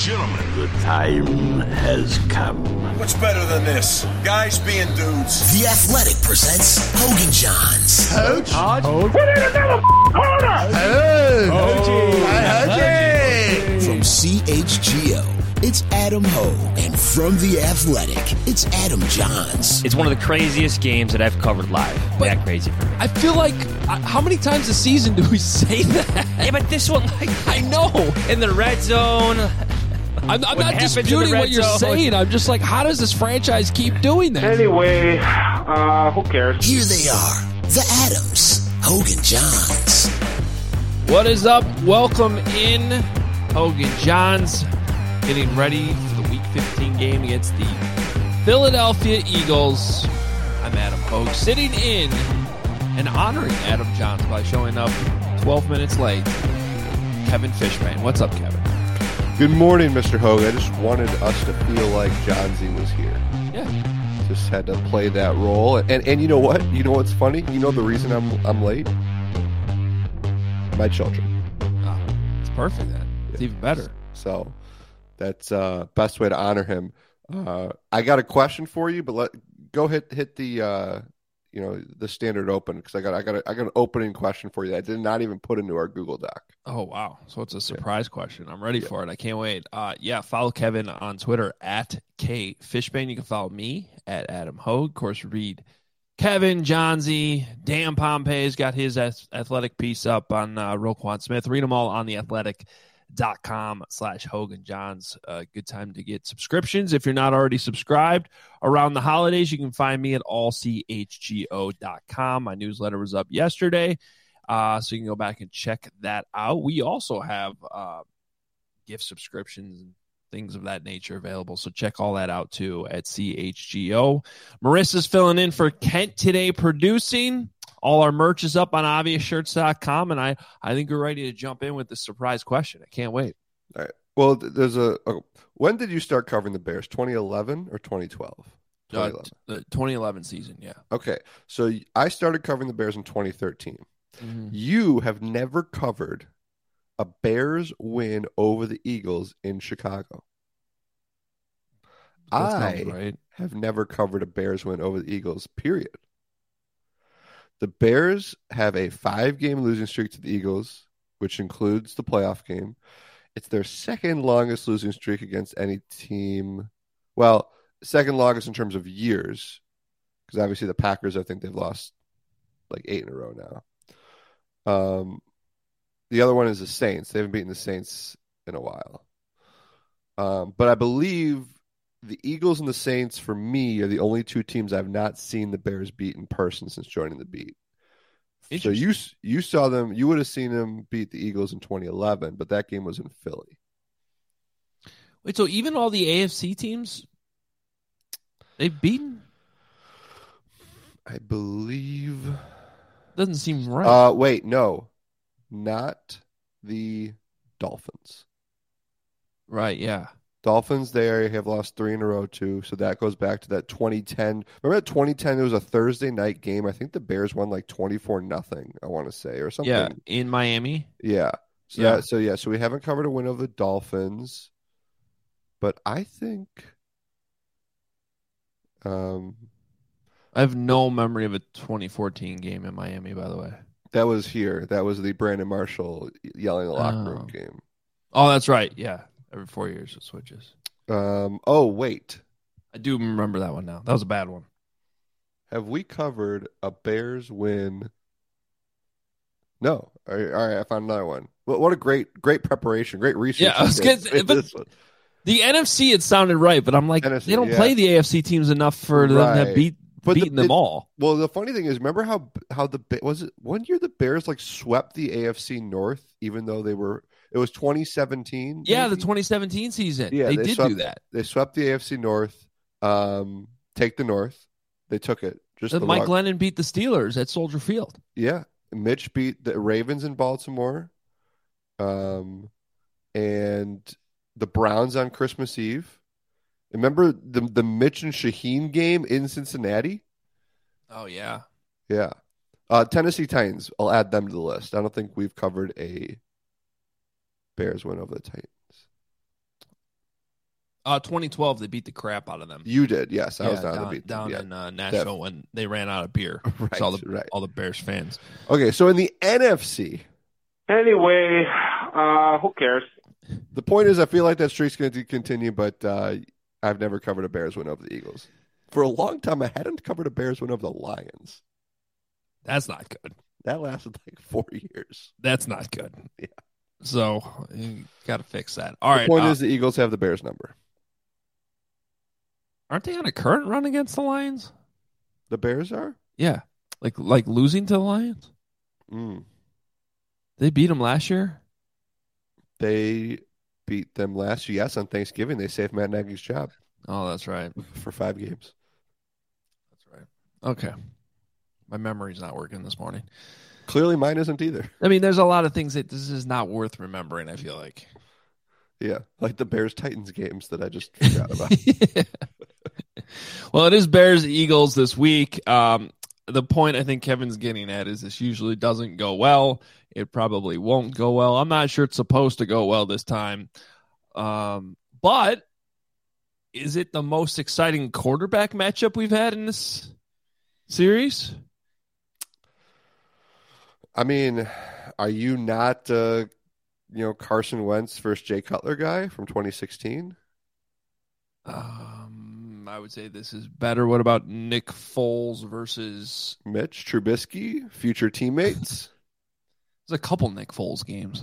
gentlemen. The time has come. What's better than this? Guys being dudes. The Athletic presents Hogan Johns. From CHGO, it's Adam Hogue. And from The Athletic, it's Adam Johns. It's one of the craziest games that I've covered live. That crazy for me. I feel like, how many times a season do we say that? Yeah, but this one, I know. in the red zone. I'm not disputing what you're saying. I'm just like, how does this franchise keep doing that? Anyway, who cares? Here they are, the Adams, Hogan Johns. What is up? Welcome in, Hogan Johns, getting ready for the Week 15 game against the Philadelphia Eagles. I'm Adam Hogue, sitting in and honoring Adam Johns by showing up 12 minutes late. Kevin Fishman. What's up, Kevin? Good morning, Mr. Hogue. I just wanted us to feel like Johnsy was here. Yeah. Just had to play that role. And you know what? You know what's funny? You know the reason I'm late? My children. Oh, it's perfect then. It's even better. So that's best way to honor him. I got a question for you, but go hit the the standard open, because I got an opening question for you that I did not even put into our Google Doc. Oh, wow. So it's a surprise question. I'm ready for it. I can't wait. Follow Kevin on Twitter at KFishbane. You can follow me at Adam Hogue. Of course, read Kevin, Johnsy, Dan Pompey's got his athletic piece up on Roquan Smith. Read them all on theathletic.com/Hogan Johns. Good time to get subscriptions. If you're not already subscribed around the holidays, you can find me at allchgo.com. My newsletter was up yesterday, so you can go back and check that out. We also have gift subscriptions and things of that nature available, so check all that out too at CHGO. Marissa's filling in for Kent today, producing. All our merch is up on obviousshirts.com, and I think we're ready to jump in with the surprise question. I can't wait. All right. Well, there's when did you start covering the Bears? 2011 or 2012? 2011. The 2011 season, yeah. Okay. So I started covering the Bears in 2013. Mm-hmm. You have never covered a Bears win over the Eagles in Chicago. I have never covered a Bears win over the Eagles, period. The Bears have a 5-game losing streak to the Eagles, which includes the playoff game. It's their second longest losing streak against any team. Well, second longest in terms of years, because obviously the Packers, I think they've lost like 8 in a row now. The other one is the Saints. They haven't beaten the Saints in a while. But I believe the Eagles and the Saints, for me, are the only two teams I've not seen the Bears beat in person since joining the beat. So you saw them, you would have seen them beat the Eagles in 2011, but that game was in Philly. Wait, so even all the AFC teams, they've beaten? I believe. Doesn't seem right. Wait, no. Not the Dolphins. Right, yeah. Dolphins, they have lost 3 in a row, too. So that goes back to that 2010. Remember that 2010? It was a Thursday night game. I think the Bears won like 24-0, I want to say, or something. Yeah, in Miami. Yeah. Yeah. So we haven't covered a win over the Dolphins. But I think I have no memory of a 2014 game in Miami, by the way. That was here. That was the Brandon Marshall yelling in the locker room game. Oh, that's right. Yeah. Every 4 years it switches. Wait. I do remember that one now. That was a bad one. Have we covered a Bears win? No. All right, I found another one. What a great preparation, great research. Yeah, I was good. But the NFC, it sounded right, but I'm like, NFC, they don't play the AFC teams enough for them to have beaten them all. Well, the funny thing is, remember how was it one year the Bears like swept the AFC North, even though it was 2017? Yeah, maybe? the 2017 season. Yeah, they did do that. They swept the AFC North. Take the North. They took it. Mike Glennon beat the Steelers at Soldier Field. Yeah. Mitch beat the Ravens in Baltimore. And the Browns on Christmas Eve. Remember the Mitch and Shaheen game in Cincinnati? Oh, yeah. Yeah. Tennessee Titans, I'll add them to the list. I don't think we've covered a Bears win over the Titans. 2012, they beat the crap out of them. You did, yes. I was down in Nashville when they ran out of beer. Right, all the Bears fans. Okay, so in the NFC. Anyway, who cares? The point is, I feel like that streak's going to continue, but I've never covered a Bears win over the Eagles. For a long time, I hadn't covered a Bears win over the Lions. That's not good. That lasted like 4 years. That's not good. Yeah. So you got to fix that. All right. The point is, the Eagles have the Bears number. Aren't they on a current run against the Lions? The Bears are? Yeah. Like losing to the Lions? They beat them last year? They beat them last year. Yes, on Thanksgiving. They saved Matt Nagy's job. Oh, that's right. For 5 games. That's right. Okay. My memory's not working this morning. Clearly mine isn't either. I mean, there's a lot of things that this is not worth remembering, I feel like. Yeah, like the Bears-Titans games that I just forgot about. Yeah. Well, it is Bears-Eagles this week. The point I think Kevin's getting at is this usually doesn't go well. It probably won't go well. I'm not sure it's supposed to go well this time. But is it the most exciting quarterback matchup we've had in this series? I mean, are you not, Carson Wentz versus Jay Cutler guy from 2016? I would say this is better. What about Nick Foles versus Mitch Trubisky, future teammates? There's a couple Nick Foles games.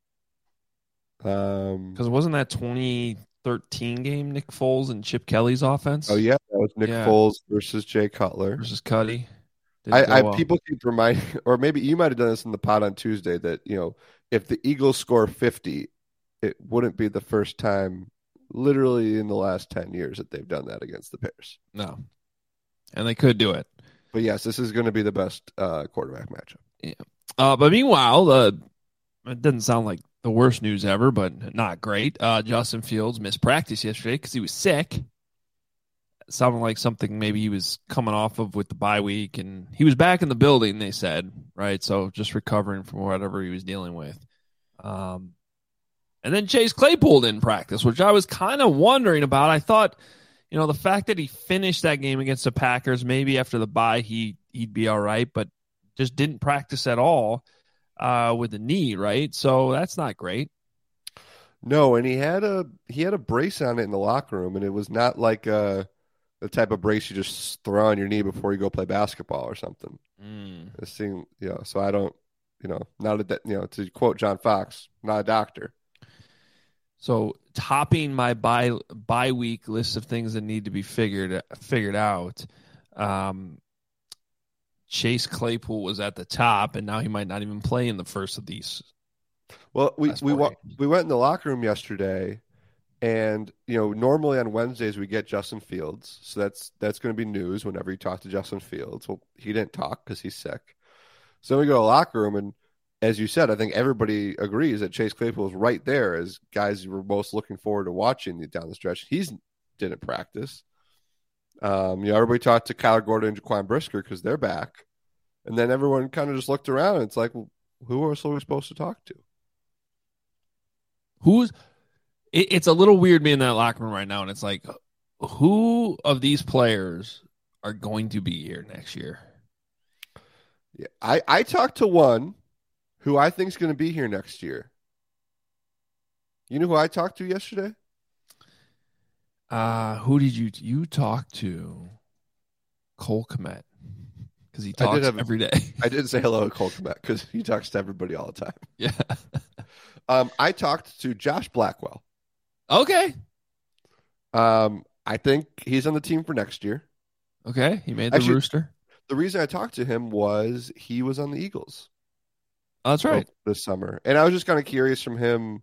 Because wasn't that 2013 game Nick Foles and Chip Kelly's offense? Oh yeah, that was Nick Foles versus Jay Cutler versus Cuddy. People keep reminding, or maybe you might have done this in the pod on Tuesday, that if the Eagles score 50, it wouldn't be the first time, literally in the last 10 years, that they've done that against the Bears. No, and they could do it. But yes, this is going to be the best quarterback matchup. Yeah. But meanwhile, it doesn't sound like the worst news ever, but not great. Justin Fields missed practice yesterday because he was sick. It sounded like something maybe he was coming off of with the bye week, and he was back in the building, they said, right? So just recovering from whatever he was dealing with. And then Chase Claypool didn't practice, which I was kind of wondering about. I thought, the fact that he finished that game against the Packers, maybe after the bye he'd be all right, but just didn't practice at all with the knee, right? So that's not great. No, and he had a brace on it in the locker room, and it was not like the type of brace you just throw on your knee before you go play basketball or something. It seemed, so I don't, not a, to quote John Fox, not a doctor. So topping my bye week list of things that need to be figured out, Chase Claypool was at the top, and now he might not even play in the first of these. Well, we went in the locker room yesterday, and normally on Wednesdays we get Justin Fields, so that's going to be news whenever you talk to Justin Fields. Well, he didn't talk because he's sick. So we go to the locker room, and as you said, I think everybody agrees that Chase Claypool is right there as guys you were most looking forward to watching down the stretch. He didn't practice. Everybody talked to Kyler Gordon and Jaquan Brisker because they're back. And then everyone kind of just looked around, and it's like, well, who else are we supposed to talk to? It's a little weird being in that locker room right now, and it's like, who of these players are going to be here next year? Yeah, I talked to one who I think is going to be here next year. You know who I talked to yesterday? Who did you talk to? Cole Kmet, because he talks every day. I did say hello to Cole Kmet because he talks to everybody all the time. Yeah. I talked to Josh Blackwell. Okay. I think he's on the team for next year. Okay, he made the Rooster. The reason I talked to him was he was on the Eagles. Oh, that's right. This summer. And I was just kind of curious from him.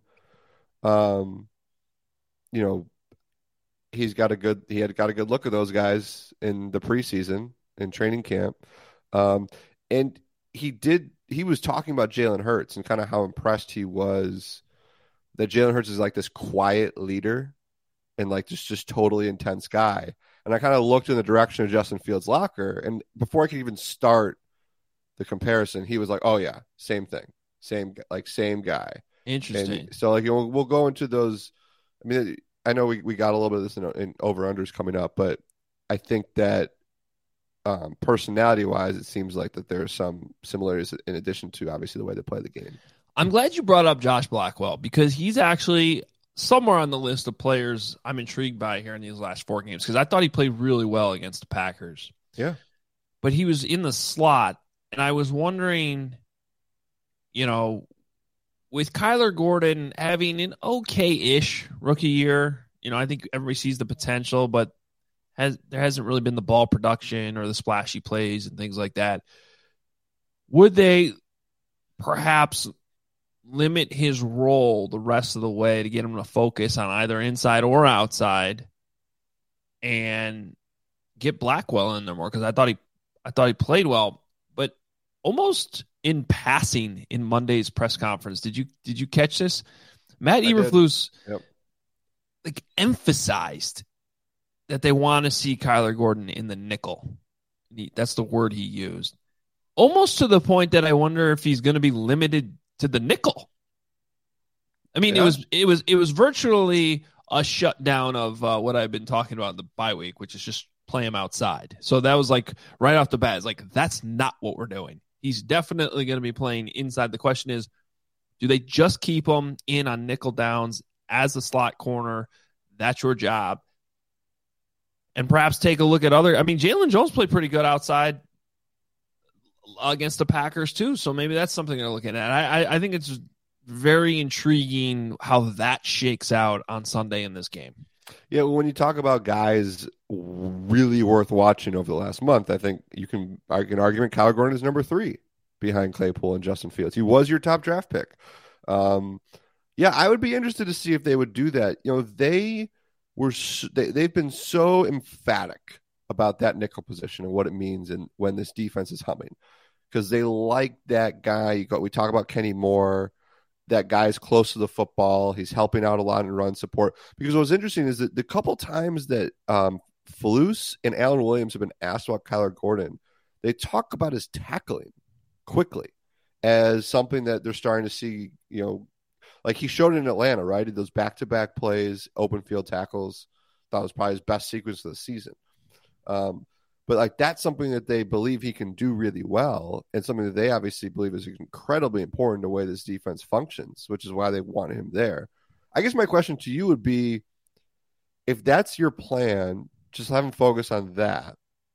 He had got a good look at those guys in the preseason in training camp. And he was talking about Jalen Hurts and kind of how impressed he was that Jalen Hurts is like this quiet leader and like just totally intense guy. And I kind of looked in the direction of Justin Fields' locker, and before I could even start the comparison, he was like, "Oh yeah, same thing, same guy." Interesting. And so we'll go into those. I mean, I know we got a little bit of this in over-unders coming up, but I think that personality-wise, it seems like that there are some similarities in addition to, obviously, the way they play the game. I'm glad you brought up Josh Blackwell because he's actually somewhere on the list of players I'm intrigued by here in these last 4 games because I thought he played really well against the Packers. Yeah. But he was in the slot, and I was wondering, with Kyler Gordon having an okay-ish rookie year, I think everybody sees the potential, but there hasn't really been the ball production or the splashy plays and things like that. Would they perhaps limit his role the rest of the way to get him to focus on either inside or outside and get Blackwell in there more? Because I thought he played well, but almost in passing in Monday's press conference, did you catch this? Matt Eberflus emphasized that they want to see Kyler Gordon in the nickel. That's the word he used. Almost to the point that I wonder if he's going to be limited to the nickel. I mean, it was virtually a shutdown of what I've been talking about in the bye week, which is just play him outside. So that was like right off the bat. It's like, that's not what we're doing. He's definitely going to be playing inside. The question is, do they just keep him in on nickel downs as a slot corner? That's your job. And perhaps take a look at Jalen Jones played pretty good outside against the Packers too. So maybe that's something they're looking at. I think it's very intriguing how that shakes out on Sunday in this game. Yeah, well, when you talk about guys really worth watching over the last month, I think you can argue an argument Kyler Gordon is number 3 behind Claypool and Justin Fields. He was your top draft pick. Yeah, I would be interested to see if they would do that. They've been so emphatic about that nickel position and what it means and when this defense is humming, because they like that guy. We talk about Kenny Moore. That guy's close to the football. He's helping out a lot in run support. Because what was interesting is that the couple times that Flus and Alan Williams have been asked about Kyler Gordon, they talk about his tackling quickly as something that they're starting to see, like he showed it in Atlanta, right? He did those back-to-back plays, open field tackles. Thought it was probably his best sequence of the season. But that's something that they believe he can do really well, and something that they obviously believe is incredibly important to the way this defense functions, which is why they want him there. I guess my question to you would be, if that's your plan, just have him focus on that.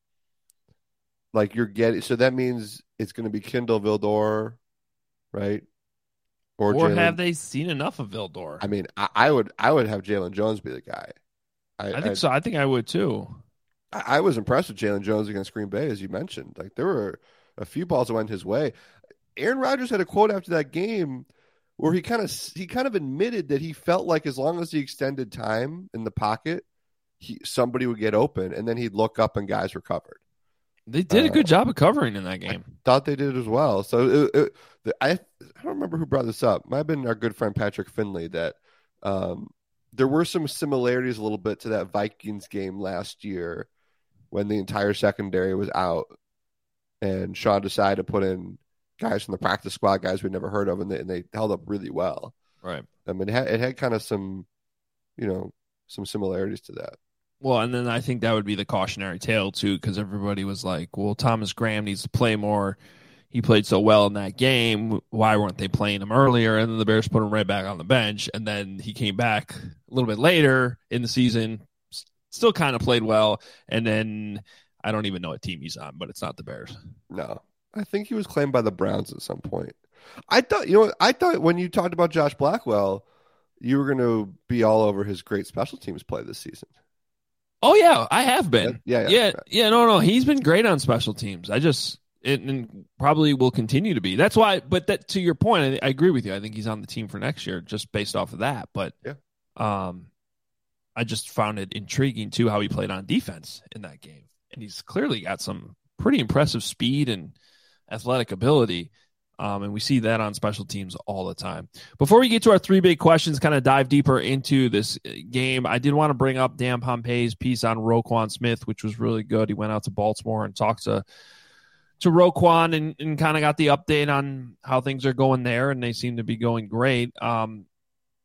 So that means it's going to be Kindle Vildor, right? Or have they seen enough of Vildor? I mean, I would have Jalen Jones be the guy. I think so. I think I would too. I was impressed with Jalen Jones against Green Bay, as you mentioned. There were a few balls that went his way. Aaron Rodgers had a quote after that game where he kind of admitted that he felt like as long as he extended time in the pocket, somebody would get open, and then he'd look up and guys were covered. They did a good job of covering in that game. I thought they did as well. So I don't remember who brought this up. It might have been our good friend Patrick Finley that there were some similarities a little bit to that Vikings game last year when the entire secondary was out and Sean decided to put in guys from the practice squad, guys we'd never heard of, and they held up really well. Right. I mean, it had kind of some similarities to that. Well, and then I think that would be the cautionary tale, too, because everybody was like, well, Thomas Graham needs to play more. He played so well in that game. Why weren't they playing him earlier? And then the Bears put him right back on the bench. And then he came back a little bit later in the season, still kind of played well. And then I don't even know what team he's on, but it's not the Bears. No, I think he was claimed by the Browns at some point. I thought when you talked about Josh Blackwell, you were going to be all over his great special teams play this season. Oh, yeah, I have been. Yeah. No, he's been great on special teams. And probably will continue to be. That's why, but that to your point, I agree with you. I think he's on the team for next year just based off of that. But I just found it intriguing, too, how he played on defense in that game. And he's clearly got some pretty impressive speed and athletic ability. And we see that on special teams all the time. Before we get to our 3 big questions, kind of dive deeper into this game, I did want to bring up Dan Pompei's piece on Roquan Smith, which was really good. He went out to Baltimore and talked to Roquan and kind of got the update on how things are going there, and they seem to be going great.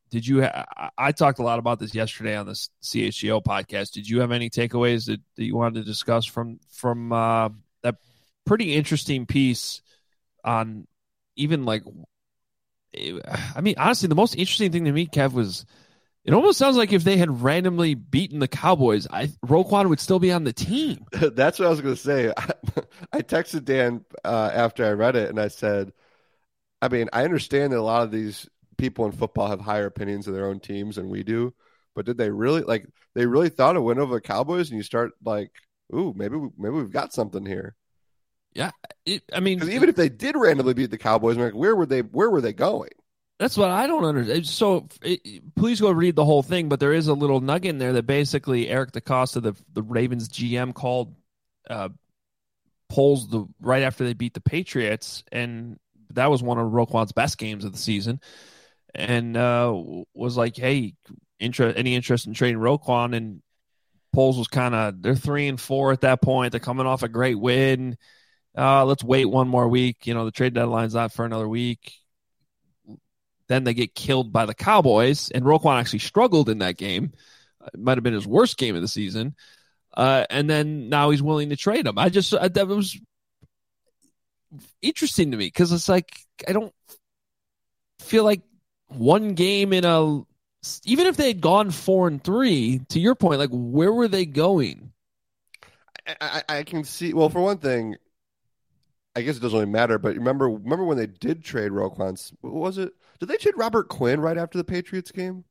did you? I talked a lot about this yesterday on the CHGO podcast. Did you have any takeaways that you wanted to discuss from that pretty interesting piece on even like? I mean, honestly, the most interesting thing to me, Kev, was it almost sounds like if they had randomly beaten the Cowboys, Roquan would still be on the team. That's what I was going to say. I texted Dan after I read it, and I said, I mean, I understand that a lot of these people in football have higher opinions of their own teams than we do, but did they really they really thought a win over the Cowboys, and you start like, ooh, maybe we've got something here. Yeah, I mean, because even if they did randomly beat the Cowboys, I'm like, where were they going? That's what I don't understand. So please go read the whole thing, but there is a little nugget in there that basically Eric DeCosta, the Ravens GM, called polls right after they beat the Patriots, and that was one of Roquan's best games of the season, and was like, hey, any interest in trading Roquan? And Poles was kind of, they're 3-4 at that point. They're coming off a great win. Let's wait one more week. The trade deadline's not for another week. Then they get killed by the Cowboys, and Roquan actually struggled in that game. It might have been his worst game of the season. And then now he's willing to trade him. That was interesting to me because it's like I don't feel like one game even if they had gone 4-3, to your point, like where were they going? I can see. Well, for one thing, I guess it doesn't really matter. But remember when they did trade Roquan? What was it? Did they trade Robert Quinn right after the Patriots game?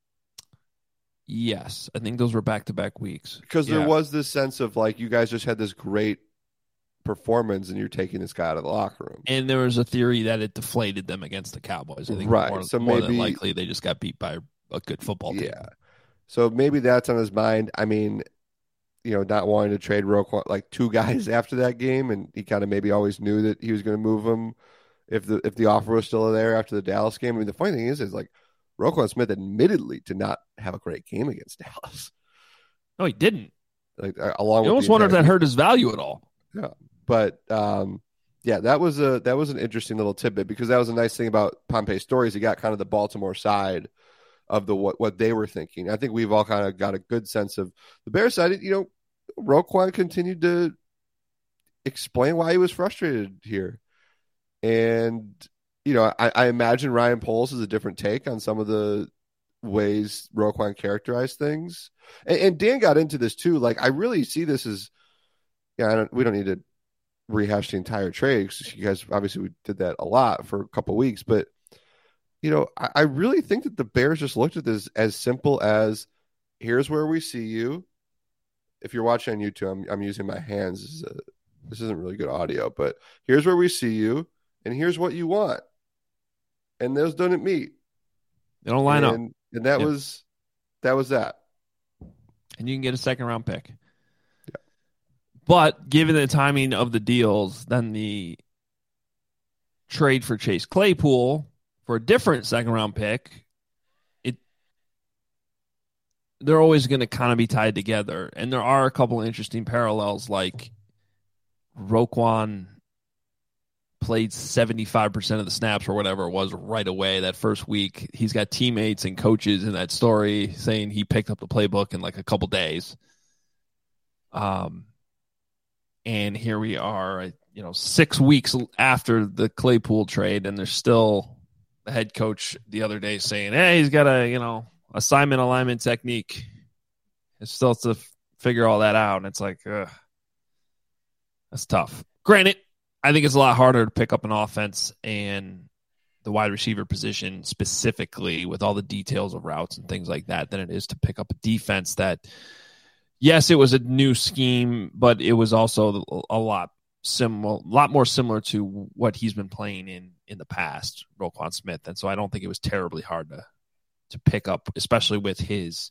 Yes, I think those were back-to-back weeks. Because there was this sense of like you guys just had this great performance and you're taking this guy out of the locker room. And there was a theory that it deflated them against the Cowboys. I think right. So more maybe, than likely they just got beat by a good football team. Yeah. So maybe that's on his mind. I mean, not wanting to trade Roquan, like two guys after that game, and he kind of maybe always knew that he was going to move him if the offer was still there after the Dallas game. I mean, the funny thing is like Roquan Smith admittedly did not have a great game against Dallas. No, he didn't. Like along, you almost wonder if that hurt his value at all. Yeah, but that was an interesting little tidbit because that was a nice thing about Pompey's stories. He got kind of the Baltimore side of what they were thinking. I think we've all kind of got a good sense of the Bears side. Roquan continued to explain why he was frustrated here. And, I imagine Ryan Poles is a different take on some of the ways Roquan characterized things. And Dan got into this too. Like, I really see this as, we don't need to rehash the entire trade because you guys, obviously we did that a lot for a couple of weeks, but I really think that the Bears just looked at this as simple as here's where we see you. If you're watching on YouTube, I'm using my hands. This isn't really good audio, but here's where we see you, and here's what you want. And those don't meet. They don't line up. And that was that. And you can get a second-round pick. Yeah. But given the timing of the deals, then the trade for Chase Claypool for a different second-round pick, they're always going to kind of be tied together. And there are a couple of interesting parallels, like Roquan played 75% of the snaps or whatever it was right away that first week. He's got teammates and coaches in that story saying he picked up the playbook in like a couple days. And here we are, 6 weeks after the Claypool trade, and there's still the head coach the other day saying, hey, he's got a, assignment alignment technique. It's still to figure all that out. And it's like, that's tough. Granted, I think it's a lot harder to pick up an offense and the wide receiver position specifically with all the details of routes and things like that than it is to pick up a defense that, yes, it was a new scheme, but it was also a lot more similar to what he's been playing in the past, Roquan Smith. And so I don't think it was terribly hard to pick up, especially with his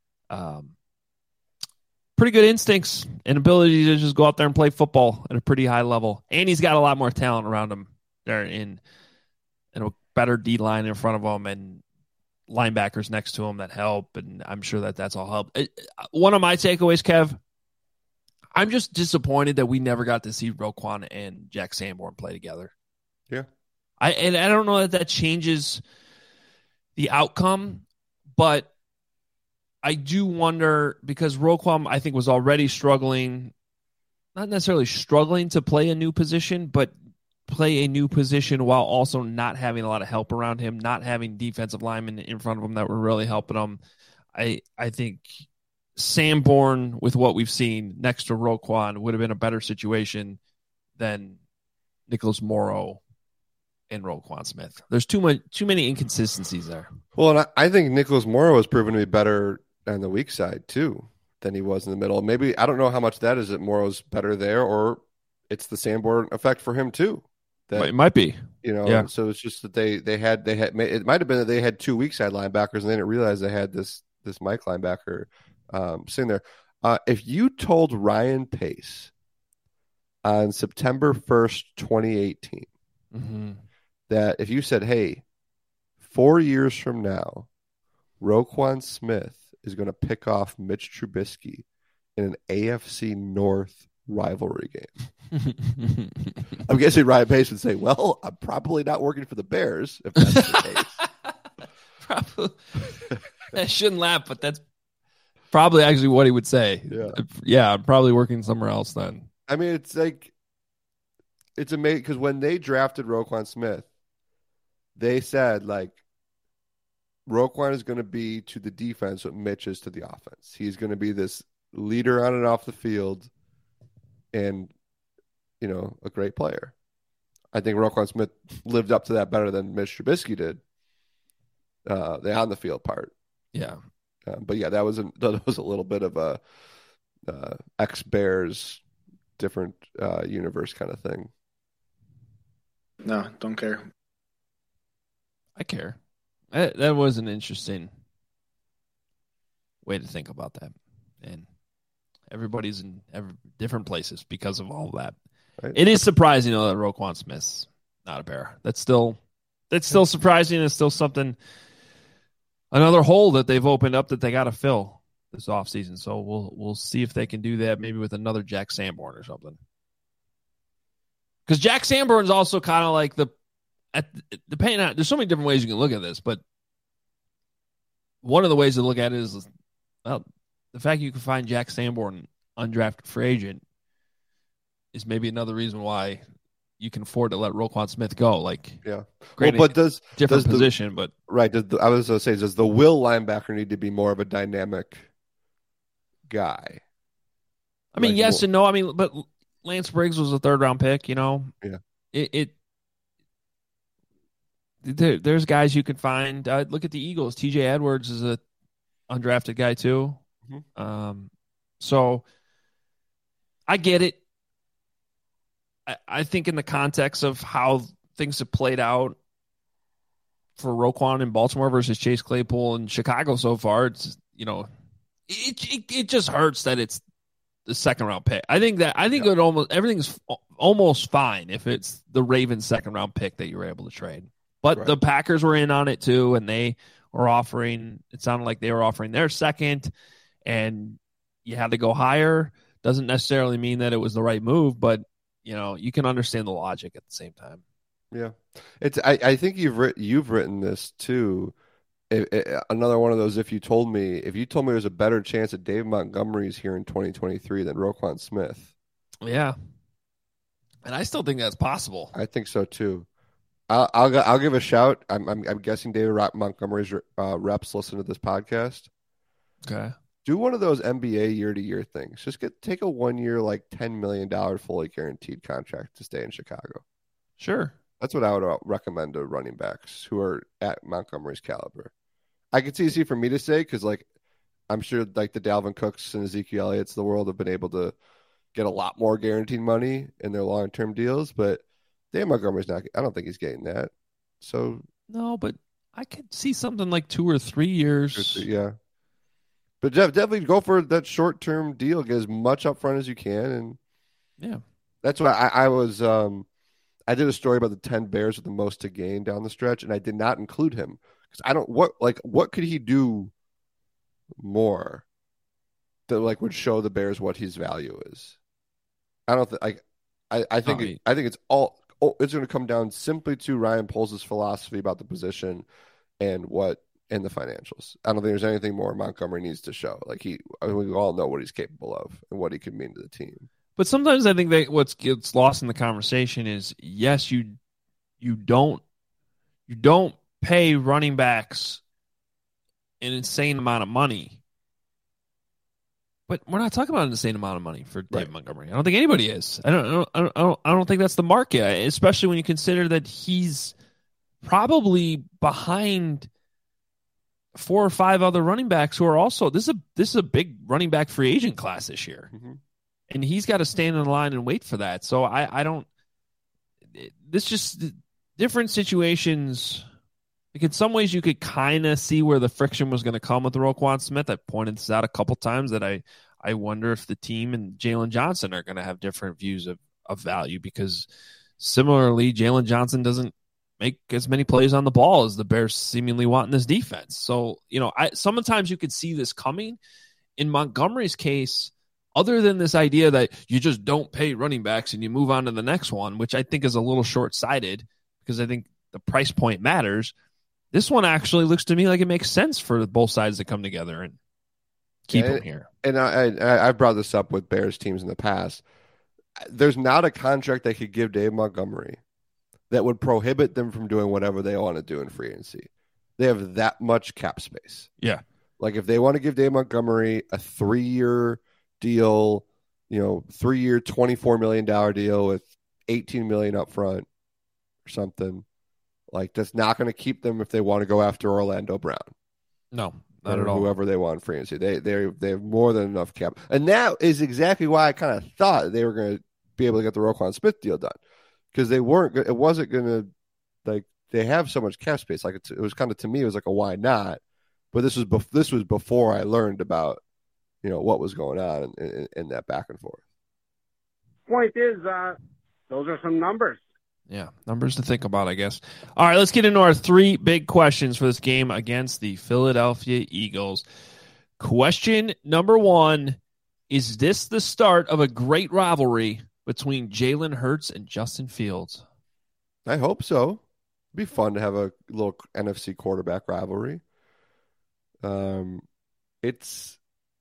pretty good instincts and ability to just go out there and play football at a pretty high level. And he's got a lot more talent around him there in a better D-line in front of him and linebackers next to him that help. And I'm sure that's all help. One of my takeaways, Kev, I'm just disappointed that we never got to see Roquan and Jack Sanborn play together. Yeah. I don't know that changes the outcome, but I do wonder because Roquan, I think, was already struggling, not necessarily struggling to play a new position, but play a new position while also not having a lot of help around him, not having defensive linemen in front of him that were really helping him. I think Sanborn, with what we've seen next to Roquan, would have been a better situation than Nicholas Morrow and Roquan Smith. There's too many inconsistencies there. Well, and I think Nicholas Morrow has proven to be better on the weak side too than he was in the middle. Maybe I don't know how much that is that Morrow's better there, or it's the Sanborn effect for him too. That, it might be, Yeah. So it's just that they had it might have been that they had 2 weak side linebackers and they didn't realize they had this Mike linebacker sitting there. If you told Ryan Pace on September 1st, 2018, that if you said, hey, 4 years from now, Roquan Smith is going to pick off Mitch Trubisky in an AFC North rivalry game, I'm guessing Ryan Pace would say, well, I'm probably not working for the Bears if that's the case. Probably. I shouldn't laugh, but that's probably actually what he would say. Yeah, I'm probably working somewhere else then. I mean, it's amazing because when they drafted Roquan Smith, they said, like, Roquan is going to be to the defense what Mitch is to the offense. He's going to be this leader on and off the field and, a great player. I think Roquan Smith lived up to that better than Mitch Trubisky did, the on the field part. Yeah. But yeah, that was a little bit of a ex-Bears different universe kind of thing. No, don't care. I care. That was an interesting way to think about that. And everybody's in different places because of all of that. Right. It is surprising, though, that Roquan Smith's not a Bear. That's still surprising. It's still something, another hole that they've opened up that they got to fill this offseason. So we'll see if they can do that maybe with another Jack Sanborn or something. Because Jack Sanborn is also kind of like depending on, there's so many different ways you can look at this, but one of the ways to look at it is, well, the fact you can find Jack Sanborn undrafted free agent is maybe another reason why you can afford to let Roquan Smith go. Like, yeah, granted, well, but different position, but right. I was going to say, does the will linebacker need to be more of a dynamic guy? I mean, yes and no. I mean, but Lance Briggs was a 3rd round pick. Yeah. There's guys you can find. Look at the Eagles. T.J. Edwards is a undrafted guy too. Mm-hmm. So I get it. I think in the context of how things have played out for Roquan in Baltimore versus Chase Claypool in Chicago so far, it's it just hurts that it's the 2nd round pick. I think everything's almost fine if it's the Ravens 2nd round pick that you were able to trade. But right. The Packers were in on it too, and they were offering. It sounded like they were offering their 2nd, and you had to go higher. Doesn't necessarily mean that it was the right move, but you can understand the logic at the same time. Yeah, I think you've written this too. Another one of those. If you told me there's a better chance that Dave Montgomery's here in 2023 than Roquan Smith. Yeah, and I still think that's possible. I think so too. I'll give a shout. I'm guessing David Montgomery's reps listen to this podcast. Okay. Do one of those NBA year-to-year things. Just take a 1 year, like $10 million fully guaranteed contract to stay in Chicago. Sure. That's what I would recommend to running backs who are at Montgomery's caliber. I could see for me to say, because I'm sure like the Dalvin Cooks and Ezekiel Elliott's of the world have been able to get a lot more guaranteed money in their long-term deals, but Dave Montgomery's not. I don't think he's getting that. So no, but I could see something like 2 or 3 years. Yeah. But definitely go for that short-term deal. Get as much upfront as you can, and yeah, that's why I was. I did a story about the 10 Bears with the most to gain down the stretch, and I did not include him because I don't what could he do more that would show the Bears what his value is. I don't think I think it's all. It's going to come down simply to Ryan Poles' philosophy about the position and what in the financials. I don't think there's anything more Montgomery needs to show. Like we all know what he's capable of and what he can mean to the team. But sometimes I think that what gets lost in the conversation is, yes, you don't pay running backs an insane amount of money. But we're not talking about an insane amount of money for David Montgomery. I don't think anybody is. I don't think that's the market, especially when you consider that he's probably behind 4 or 5 other running backs who are also this is a big running back free agent class this year, and he's got to stand in line and wait for that. So I don't. This just different situations. Like in some ways, you could kind of see where the friction was going to come with Roquan Smith. I pointed this out a couple times that I wonder if the team and Jalen Johnson are going to have different views of value, because similarly, Jalen Johnson doesn't make as many plays on the ball as the Bears seemingly want in this defense. So, sometimes you could see this coming. In Montgomery's case, other than this idea that you just don't pay running backs and you move on to the next one, which I think is a little short-sighted because I think the price point matters. This one actually looks to me like it makes sense for both sides to come together and keep him here. And I've brought this up with Bears teams in the past. There's not a contract they could give Dave Montgomery that would prohibit them from doing whatever they want to do in free agency. They have that much cap space. Yeah. Like if they want to give Dave Montgomery a 3-year deal, 3-year, $24 million deal with $18 million up front or something, like that's not going to keep them if they want to go after Orlando Brown. No, not at all. Whoever they want in free agency. They have more than enough cap. And that is exactly why I kind of thought they were going to be able to get the Roquan Smith deal done. Because it wasn't going to, like, they have so much cap space. Like it was kind of, to me, it was like a why not? But this was before I learned about, what was going on in that back and forth. Point is, those are some numbers. Yeah, numbers to think about, I guess. All right, let's get into our 3 big questions for this game against the Philadelphia Eagles. Question number 1, is this the start of a great rivalry between Jalen Hurts and Justin Fields? I hope so. It'd be fun to have a little NFC quarterback rivalry. It's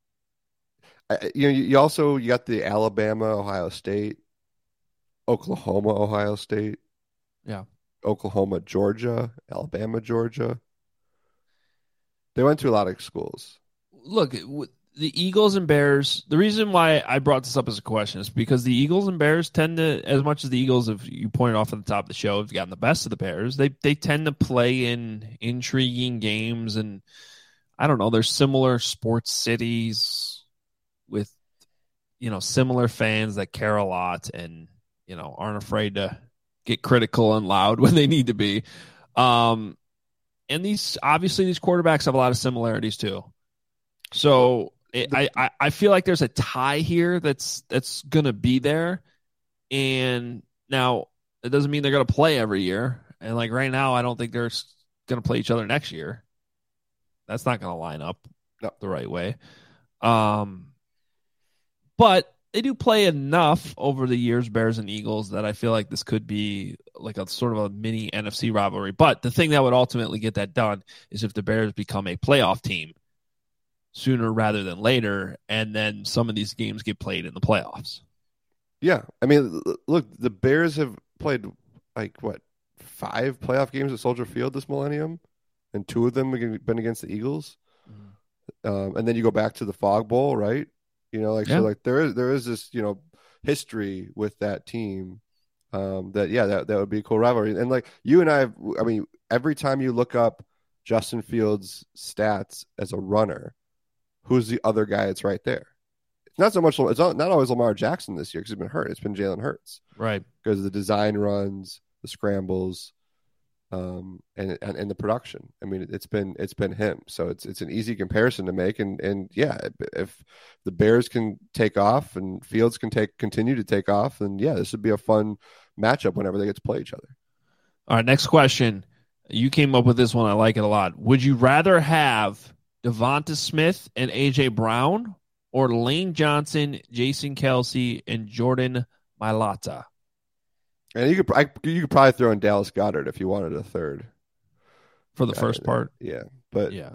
you got the Alabama, Ohio State, Oklahoma, Ohio State, Oklahoma, Georgia, Alabama, Georgia. They went to a lot of schools. Look, the Eagles and Bears, the reason why I brought this up as a question is because the Eagles and Bears tend to, as much as the Eagles, if you pointed off at the top of the show, have gotten the best of the Bears, they tend to play in intriguing games, and I don't know, there's similar sports cities with, similar fans that care a lot and, aren't afraid to get critical and loud when they need to be. And these quarterbacks have a lot of similarities too. So I feel like there's a tie here that's going to be there. And now it doesn't mean they're going to play every year. And like right now, I don't think they're going to play each other next year. That's not going to line up the right way. But they do play enough over the years, Bears and Eagles, that I feel like this could be like a sort of a mini NFC rivalry. But the thing that would ultimately get that done is if the Bears become a playoff team sooner rather than later, and then some of these games get played in the playoffs. Yeah. I mean, look, the Bears have played 5 playoff games at Soldier Field this millennium, and 2 of them have been against the Eagles. And then you go back to the Fog Bowl, right? So there is this, history with that team that would be a cool rivalry. And like you and I mean, every time you look up Justin Fields' stats as a runner, who's the other guy that's right there? It's not so much, it's not always Lamar Jackson this year because he's been hurt. It's been Jalen Hurts. Right. Because of the design runs, the scrambles, and the production. I mean, it's been him. So it's an easy comparison to make. And yeah, if the Bears can take off and Fields can continue to take off, then yeah, this would be a fun matchup whenever they get to play each other. All right, next question. You came up with this one. I like it a lot. Would you rather have Devonta Smith and A.J. Brown or Lane Johnson, Jason Kelce, and Jordan Mailata? And you could probably throw in Dallas Goedert if you wanted a third for the first part. Yeah, But Yeah.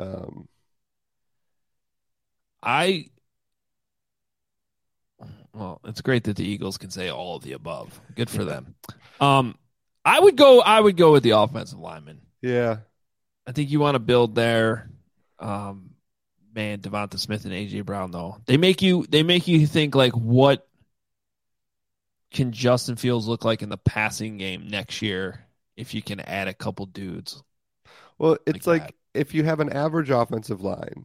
Well, it's great that the Eagles can say all of the above. Good for them. I would go with the offensive lineman. yeah, I think you want to build there. Man, Devonta Smith and AJ Brown, though, they make you think, like, what can Justin Fields look like in the passing game next year if you can add a couple dudes? well, it's like that. if you have an average offensive line,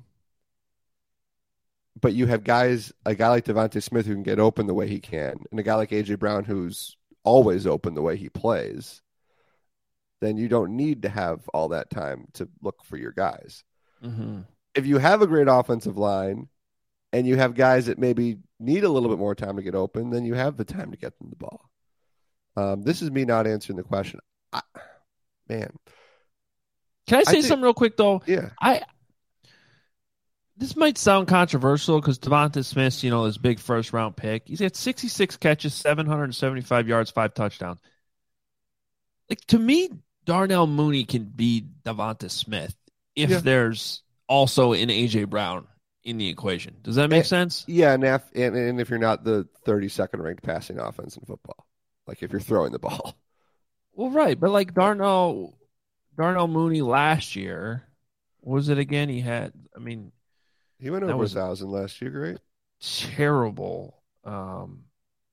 but you have a guy like Devonta Smith who can get open the way he can, and a guy like AJ Brown who's always open the way he plays, then you don't need to have all that time to look for your guys. Mm-hmm. If you have a great offensive line and you have guys that maybe need a little bit more time to get open, then you have the time to get them the ball. This is me not answering the question. Man. Can I say something real quick, though? Yeah. This might sound controversial because Devonta Smith, this big first-round pick. He's had 66 catches, 775 yards, 5 touchdowns. Like, to me, Darnell Mooney can be Devonta Smith if there's also an A.J. Brown in the equation. Does that make sense? Yeah, and if you're not the 32nd ranked passing offense in football, like if you're throwing the ball. Well, right, but like Darnell Mooney last year, what was it again? He went over 1,000 last year, right? Terrible. I'm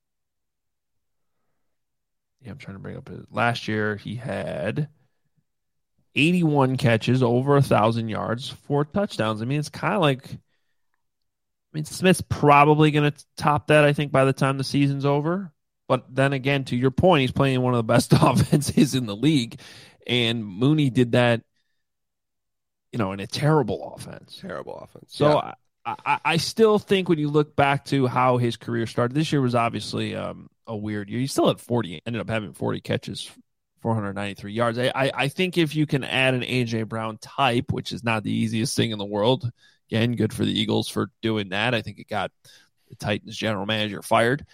trying to bring up his last year. He had 81 catches, over 1,000 yards, 4 touchdowns. It's kind of like, Smith's probably going to top that, I think, by the time the season's over. But then again, to your point, he's playing one of the best offenses in the league. And Mooney did that, in a terrible offense. So yeah. I still think when you look back to how his career started, this year was obviously a weird year. He still had ended up having 40 catches, 493 yards. I think if you can add an A.J. Brown type, which is not the easiest thing in the world, again, good for the Eagles for doing that. I think it got the Titans general manager fired.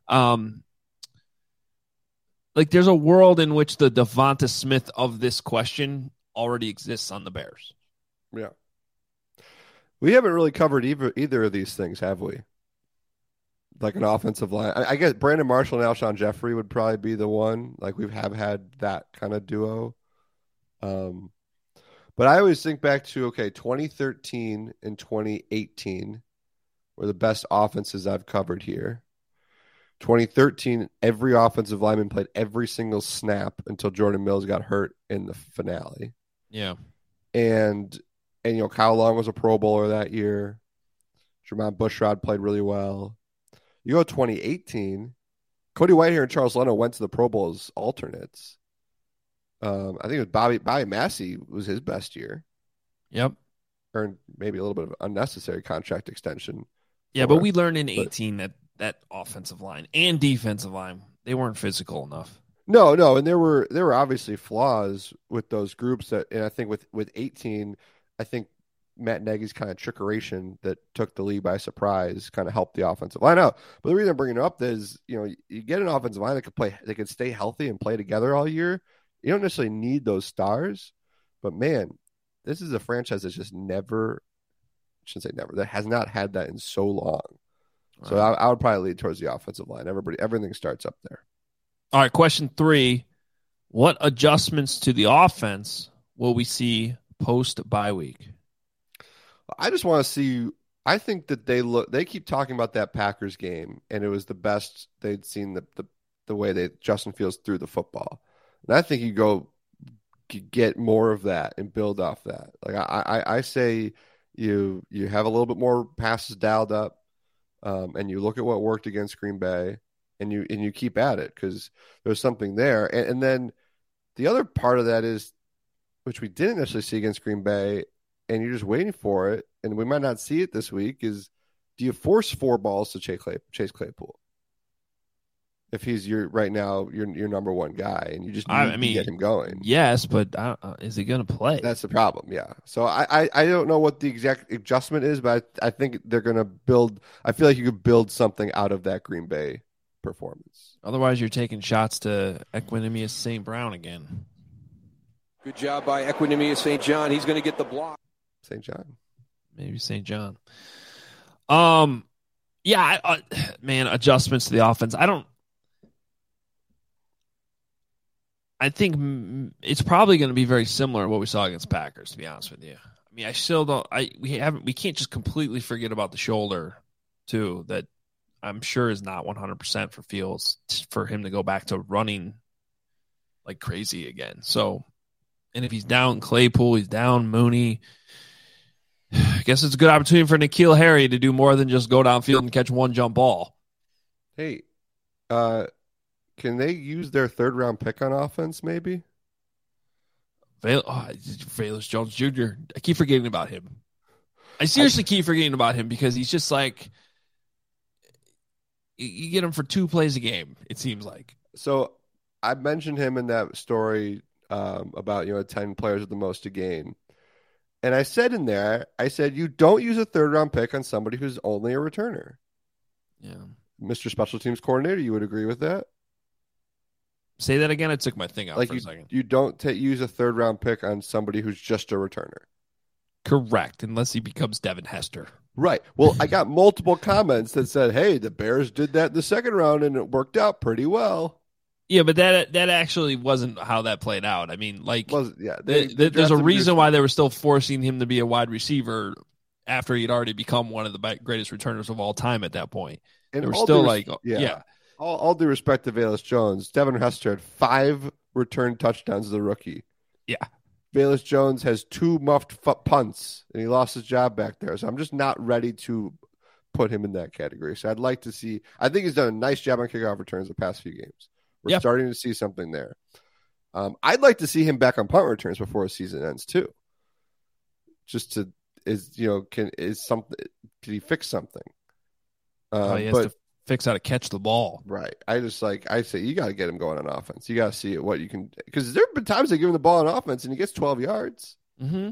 There's a world in which the Devonta Smith of this question already exists on the Bears. Yeah. We haven't really covered either of these things, have we? Like an offensive line. I guess Brandon Marshall and Alshon Jeffrey would probably be the one. Like we have had that kind of duo. But I always think back to, 2013 and 2018 were the best offenses I've covered here. 2013, every offensive lineman played every single snap until Jordan Mills got hurt in the finale. Yeah. And Kyle Long was a Pro Bowler that year. Jermon Bushrod played really well. You go 2018, Cody Whitehair and Charles Leno went to the Pro Bowl as alternates. I think it was Bobby Massey was his best year. Yep. Earned maybe a little bit of unnecessary contract extension. Yeah, but we learned in 18 that offensive line and defensive line, they weren't physical enough. No, and there were obviously flaws with those groups and I think with 18, I think Matt Nagy's kind of trickeration that took the league by surprise kind of helped the offensive line out. But the reason I'm bringing it up is, you get an offensive line that could play, they could stay healthy and play together all year. You don't necessarily need those stars, but man, this is a franchise that's just never, I shouldn't say never, that has not had that in so long. Right. So I would probably lead towards the offensive line. Everything starts up there. All right, question 3. What adjustments to the offense will we see post-bye week? I just want to see. I think that they keep talking about that Packers game, and it was the best they'd seen the way Justin Fields threw the football. And I think you go get more of that and build off that. Like I say, you have a little bit more passes dialed up, and you look at what worked against Green Bay, and you keep at it because there's something there. And then the other part of that is, which we didn't necessarily see against Green Bay, and you're just waiting for it, and we might not see it this week, is do you force 4 balls to Chase Claypool? If he's your number one guy, and you just need to get him going. Yes, but is he going to play? That's the problem, yeah. So I don't know what the exact adjustment is, but I think they're going to build – I feel like you could build something out of that Green Bay performance. Otherwise, you're taking shots to Equanimeous St. Brown again. Good job by Equanimeous St. John. He's going to get the block. St. John. Maybe St. John. Yeah, man, adjustments to the offense. I think it's probably going to be very similar to what we saw against Packers, to be honest with you. I mean, I still don't. We can't just completely forget about the shoulder, too. That I'm sure is not 100% for Fields for him to go back to running like crazy again. So, and if he's down Claypool, he's down Mooney. I guess it's a good opportunity for N'Keal Harry to do more than just go downfield and catch one jump ball. Hey, can they use their 3rd-round pick on offense, maybe? Velus Jones Jr. I keep forgetting about him. I seriously keep forgetting about him because he's just like, you get him for 2 plays a game, it seems like. So I mentioned him in that story about 10 players with the most to gain. And I said in there, you don't use a 3rd-round pick on somebody who's only a returner. Yeah. Mr. Special Teams Coordinator, you would agree with that? Say that again. I took my thing out for a second. You don't use a 3rd-round pick on somebody who's just a returner. Correct, unless he becomes Devin Hester. Right. Well, I got multiple comments that said, hey, the Bears did that in the 2nd round, and it worked out pretty well. Yeah, but that actually wasn't how that played out. I mean, like, there's a reason why they were still forcing him to be a wide receiver after he'd already become one of the greatest returners of all time at that point. And they were still like, yeah. All due respect to Velus Jones, Devin Hester had 5 return touchdowns as a rookie. Yeah. Velus Jones has 2 muffed punts, and he lost his job back there. So I'm just not ready to put him in that category. So I'd like to see – I think he's done a nice job on kickoff returns the past few games. We're starting to see something there. I'd like to see him back on punt returns before his season ends too. Just to can he fix something? He has to fix how to catch the ball. Right. I say you got to get him going on offense. You got to see what you can, because there have been times they give him the ball on offense and he gets 12 yards. Mm-hmm.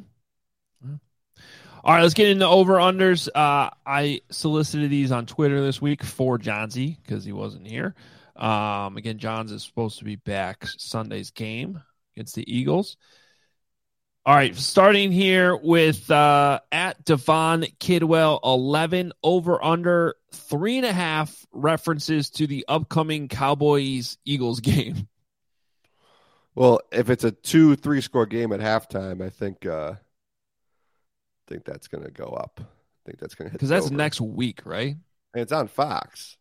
All right, let's get into over-unders. I solicited these on Twitter this week for Johnsy because he wasn't here. Again, Johns is supposed to be back Sunday's game against the Eagles. All right, starting here with at Devon Kidwell 11 over under 3.5 references to the upcoming Cowboys Eagles game. Well, if it's a 2-3 score game at halftime, I think that's going to go up. I think that's going to hit because that's next week, right? And it's on Fox.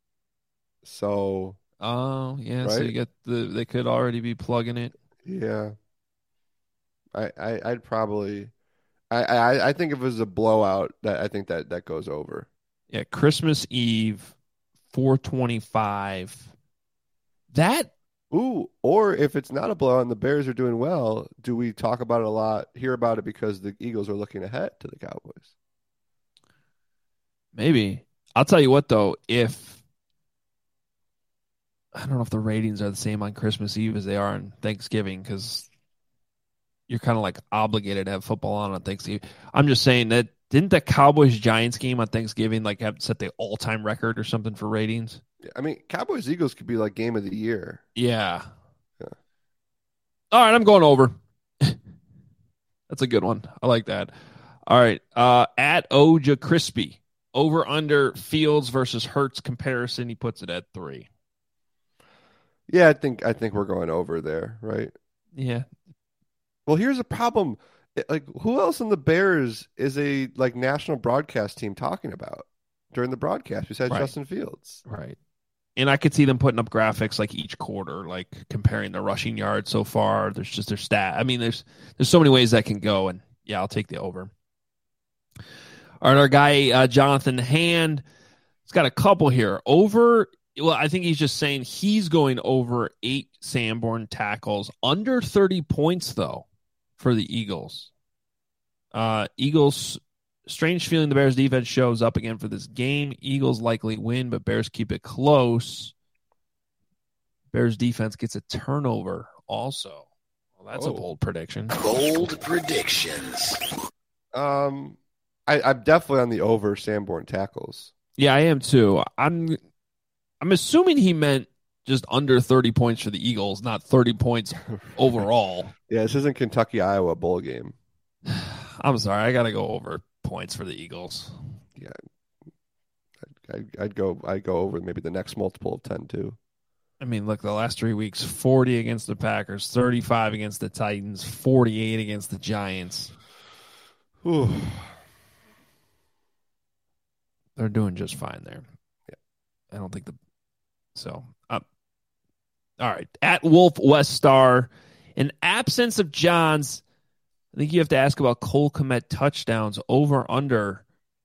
So, yeah, right? so you get they could already be plugging it. Yeah. I'd probably I think if it was a blowout, I think that goes over. Yeah, Christmas Eve, 4:25. That or if it's not a blowout and the Bears are doing well, do we talk about it a lot, hear about it because the Eagles are looking ahead to the Cowboys? Maybe. I'll tell you what though, I don't know if the ratings are the same on Christmas Eve as they are on Thanksgiving because you're kind of like obligated to have football on Thanksgiving. I'm just saying that didn't the Cowboys-Giants game on Thanksgiving like have set the all-time record or something for ratings? I mean, Cowboys-Eagles could be like game of the year. Yeah. All right, I'm going over. That's a good one. I like that. All right, at Oja Crispy, over under Fields versus Hurts comparison. He puts it at 3. Yeah, I think we're going over there, right? Yeah. Well, here's a problem. Like, who else in the Bears is a national broadcast team talking about during the broadcast besides Justin Fields? Right. And I could see them putting up graphics like each quarter, like comparing the rushing yards so far. There's just their stat. I mean, there's so many ways that can go, and yeah, I'll take the over. All right, our guy Jonathan Hand, he's got a couple here. Over. Well, I think he's just saying he's going over 8 Sanborn tackles, under 30 points, though, for the Eagles. Eagles, strange feeling the Bears defense shows up again for this game. Eagles likely win, but Bears keep it close. Bears defense gets a turnover also. Well, that's a bold prediction. Bold predictions. I'm definitely on the over Sanborn tackles. Yeah, I am too. I'm assuming he meant just under 30 points for the Eagles, not 30 points overall. Yeah, this isn't Kentucky-Iowa bowl game. I'm sorry. I got to go over points for the Eagles. Yeah. I'd go over maybe the next multiple of 10 too. I mean, look, the last 3 weeks, 40 against the Packers, 35 against the Titans, 48 against the Giants. Whew. They're doing just fine there. Yeah. I don't think all right. At Wolf West Star, in absence of Johns, I think you have to ask about Cole Kmet touchdowns over under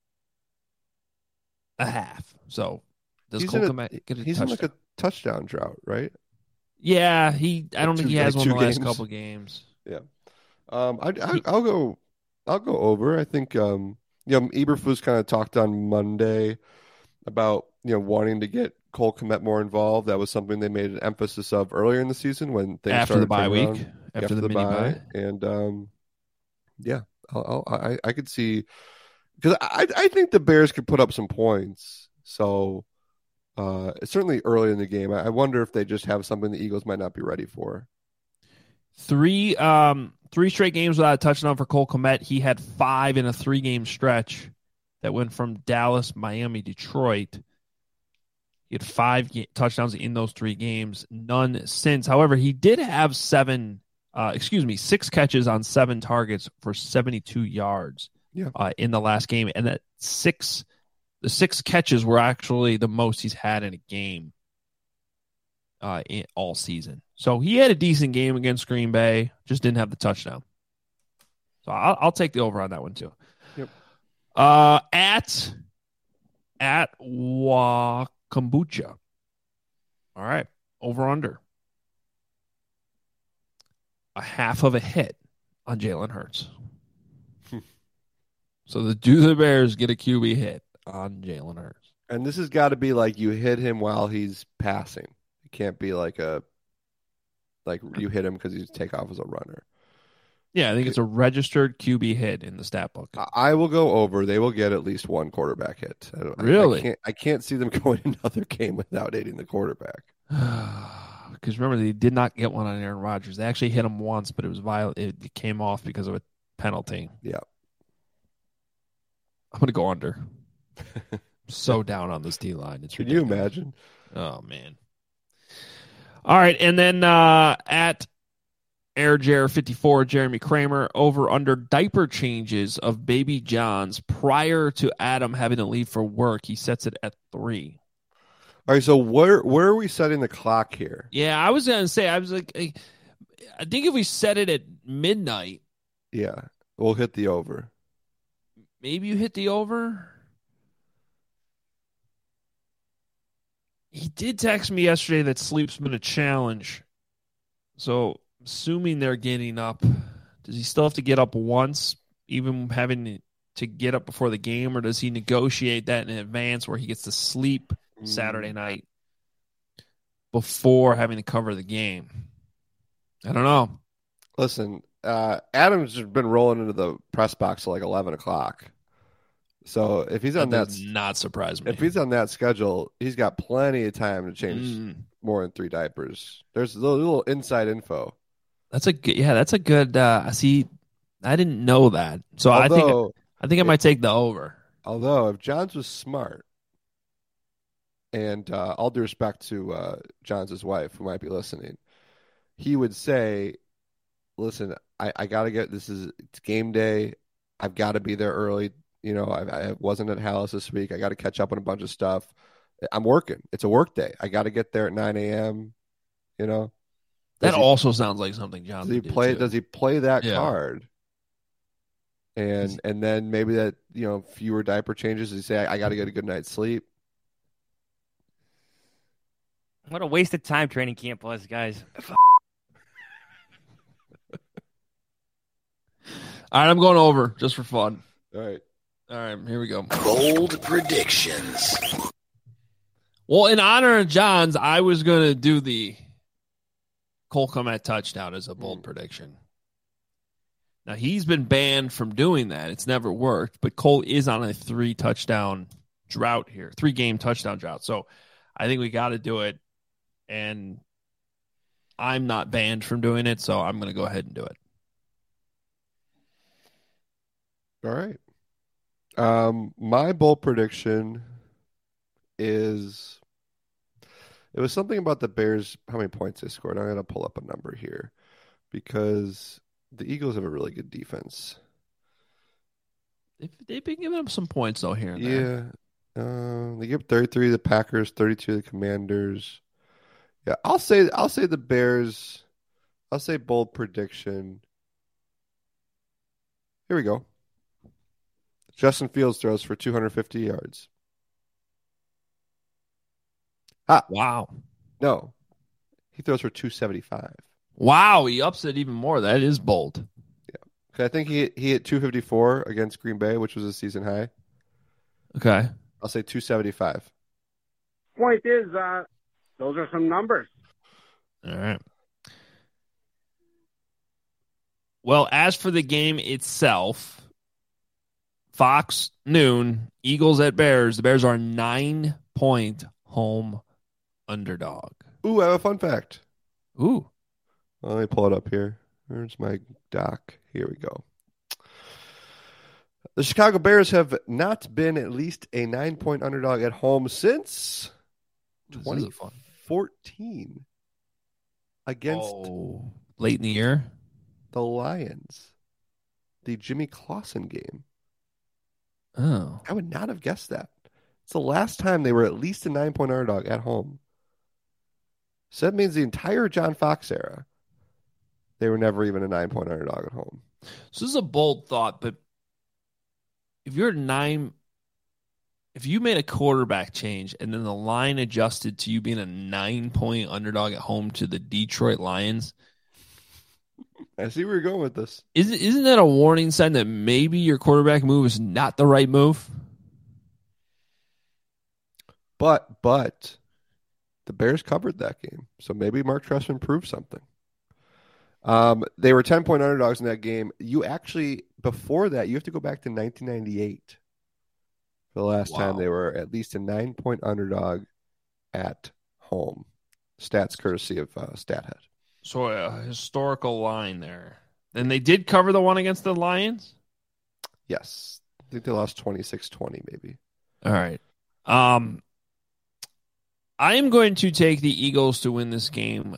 a half. So does Cole Kmet get a touchdown? He's in like a touchdown drought, right? Yeah, I don't think he has one in the last games. couple games. Yeah. I'll go over. I think Eberflus kind of talked on Monday about wanting to get Cole Kmet more involved. That was something they made an emphasis of earlier in the season when things after started the bye week, around, after the mini bye. And I could see, because I think the Bears could put up some points. So certainly early in the game, I wonder if they just have something the Eagles might not be ready for. Three straight games without a touchdown for Cole Kmet. He had 5 in a 3-game stretch that went from Dallas, Miami, Detroit. He had 5 touchdowns in those 3 games, none since. However, he did have 6 catches on 7 targets for 72 yards in the last game. And the 6 catches were actually the most he's had in a game all season. So he had a decent game against Green Bay, just didn't have the touchdown. So I'll take the over on that one too. Yep. At Kombucha. All right. Over under. A half of a hit on Jalen Hurts. So do the Bears get a QB hit on Jalen Hurts? And this has got to be like you hit him while he's passing. It can't be like you hit him because he's take off as a runner. Yeah, I think it's a registered QB hit in the stat book. I will go over. They will get at least one quarterback hit. Really? I can't see them going another game without hitting the quarterback. Because remember, they did not get one on Aaron Rodgers. They actually hit him once, but it was violent. It came off because of a penalty. Yeah. I'm going to go under. So down on this D-line. It's Can ridiculous. you imagine? Oh, man. All right, and then at AirJair54, Jeremy Kramer, over under diaper changes of baby Johns prior to Adam having to leave for work. He sets it at 3. All right, so where are we setting the clock here? Yeah, I was going to say, I think if we set it at midnight. Yeah, we'll hit the over. Maybe you hit the over? He did text me yesterday that sleep's been a challenge. So, assuming they're getting up, does he still have to get up once, even having to get up before the game, or does he negotiate that in advance where he gets to sleep Saturday night before having to cover the game? I don't know. Listen, Adam's been rolling into the press box at like 11 o'clock. So if he's on that, does not surprise me. If he's on that schedule, he's got plenty of time to change more than 3 diapers. There's a little inside info. That's a good. See, I didn't know that, so I think I might take the over. Although if Johns was smart, and all due respect to Johns' wife, who might be listening, he would say, "Listen, I got to get it's game day. I've got to be there early. I wasn't at Hallis this week. I got to catch up on a bunch of stuff. I'm working. It's a work day. I got to get there at 9 a.m. That also sounds like something John would do too. Does he play that card? And then maybe that fewer diaper changes. Does he say I got to get a good night's sleep? What a waste of time training camp was, guys. All right, I'm going over just for fun. All right, here we go. Bold predictions. Well, in honor of Johns, I was going to do the Cole Kmet touchdown as a bold prediction. Now, he's been banned from doing that. It's never worked, but Cole is on a 3-touchdown drought here, 3-game touchdown drought. So I think we got to do it, and I'm not banned from doing it, so I'm going to go ahead and do it. All right. My bold prediction is it was something about the Bears, how many points they scored. I'm going to pull up a number here because the Eagles have a really good defense. They've been giving up some points though here and there. Yeah. They give 33 to the Packers, 32 to the Commanders. Yeah, I'll say the Bears. I'll say bold prediction. Here we go. Justin Fields throws for 250 yards. Wow. No. He throws for 275. Wow, he ups it even more. That is bold. Yeah. I think he hit 254 against Green Bay, which was a season high. Okay. I'll say 275. Point is, those are some numbers. All right. Well, as for the game itself, Fox noon, Eagles at Bears. The Bears are 9-point home underdog. Ooh, I have a fun fact. Ooh. Let me pull it up here. Where's my doc? Here we go. The Chicago Bears have not been at least a 9-point underdog at home since 2014 against late in the year. The Lions. The Jimmy Clausen game. Oh. I would not have guessed that. It's the last time they were at least a 9-point underdog at home. So that means the entire John Fox era, they were never even a 9-point underdog at home. So this is a bold thought, but if you made a quarterback change and then the line adjusted to you being a 9-point underdog at home to the Detroit Lions, I see where you're going with this. Isn't that a warning sign that maybe your quarterback move is not the right move? But the Bears covered that game, so maybe Mark Trestman proved something. They were 10-point underdogs in that game. Before that, you have to go back to 1998 for the last time they were at least a 9-point underdog at home. Stats courtesy of StatHead. So a historical line there. And they did cover the one against the Lions? Yes. I think they lost 26-20 maybe. All right. I am going to take the Eagles to win this game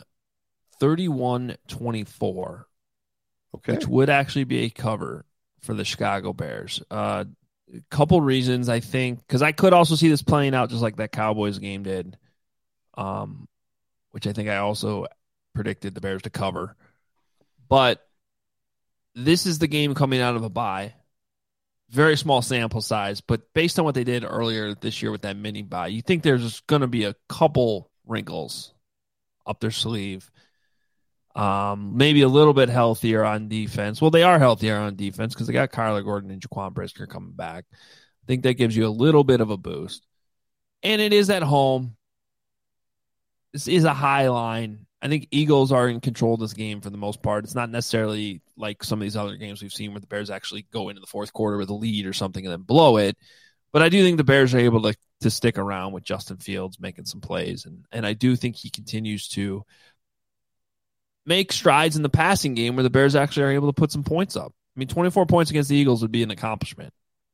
31-24. Okay. Which would actually be a cover for the Chicago Bears. A couple reasons, I think, because I could also see this playing out just like that Cowboys game did, which I think I also predicted the Bears to cover. But this is the game coming out of a bye. Very small sample size, but based on what they did earlier this year with that mini bye, you think there's going to be a couple wrinkles up their sleeve. Maybe a little bit healthier on defense. Well, they are healthier on defense because they got Kyler Gordon and Jaquan Brisker coming back. I think that gives you a little bit of a boost. And it is at home. This is a high line. I think Eagles are in control of this game for the most part. It's not necessarily like some of these other games we've seen where the Bears actually go into the fourth quarter with a lead or something and then blow it. But I do think the Bears are able to stick around with Justin Fields making some plays. And I do think he continues to make strides in the passing game where the Bears actually are able to put some points up. I mean, 24 points against the Eagles would be an accomplishment.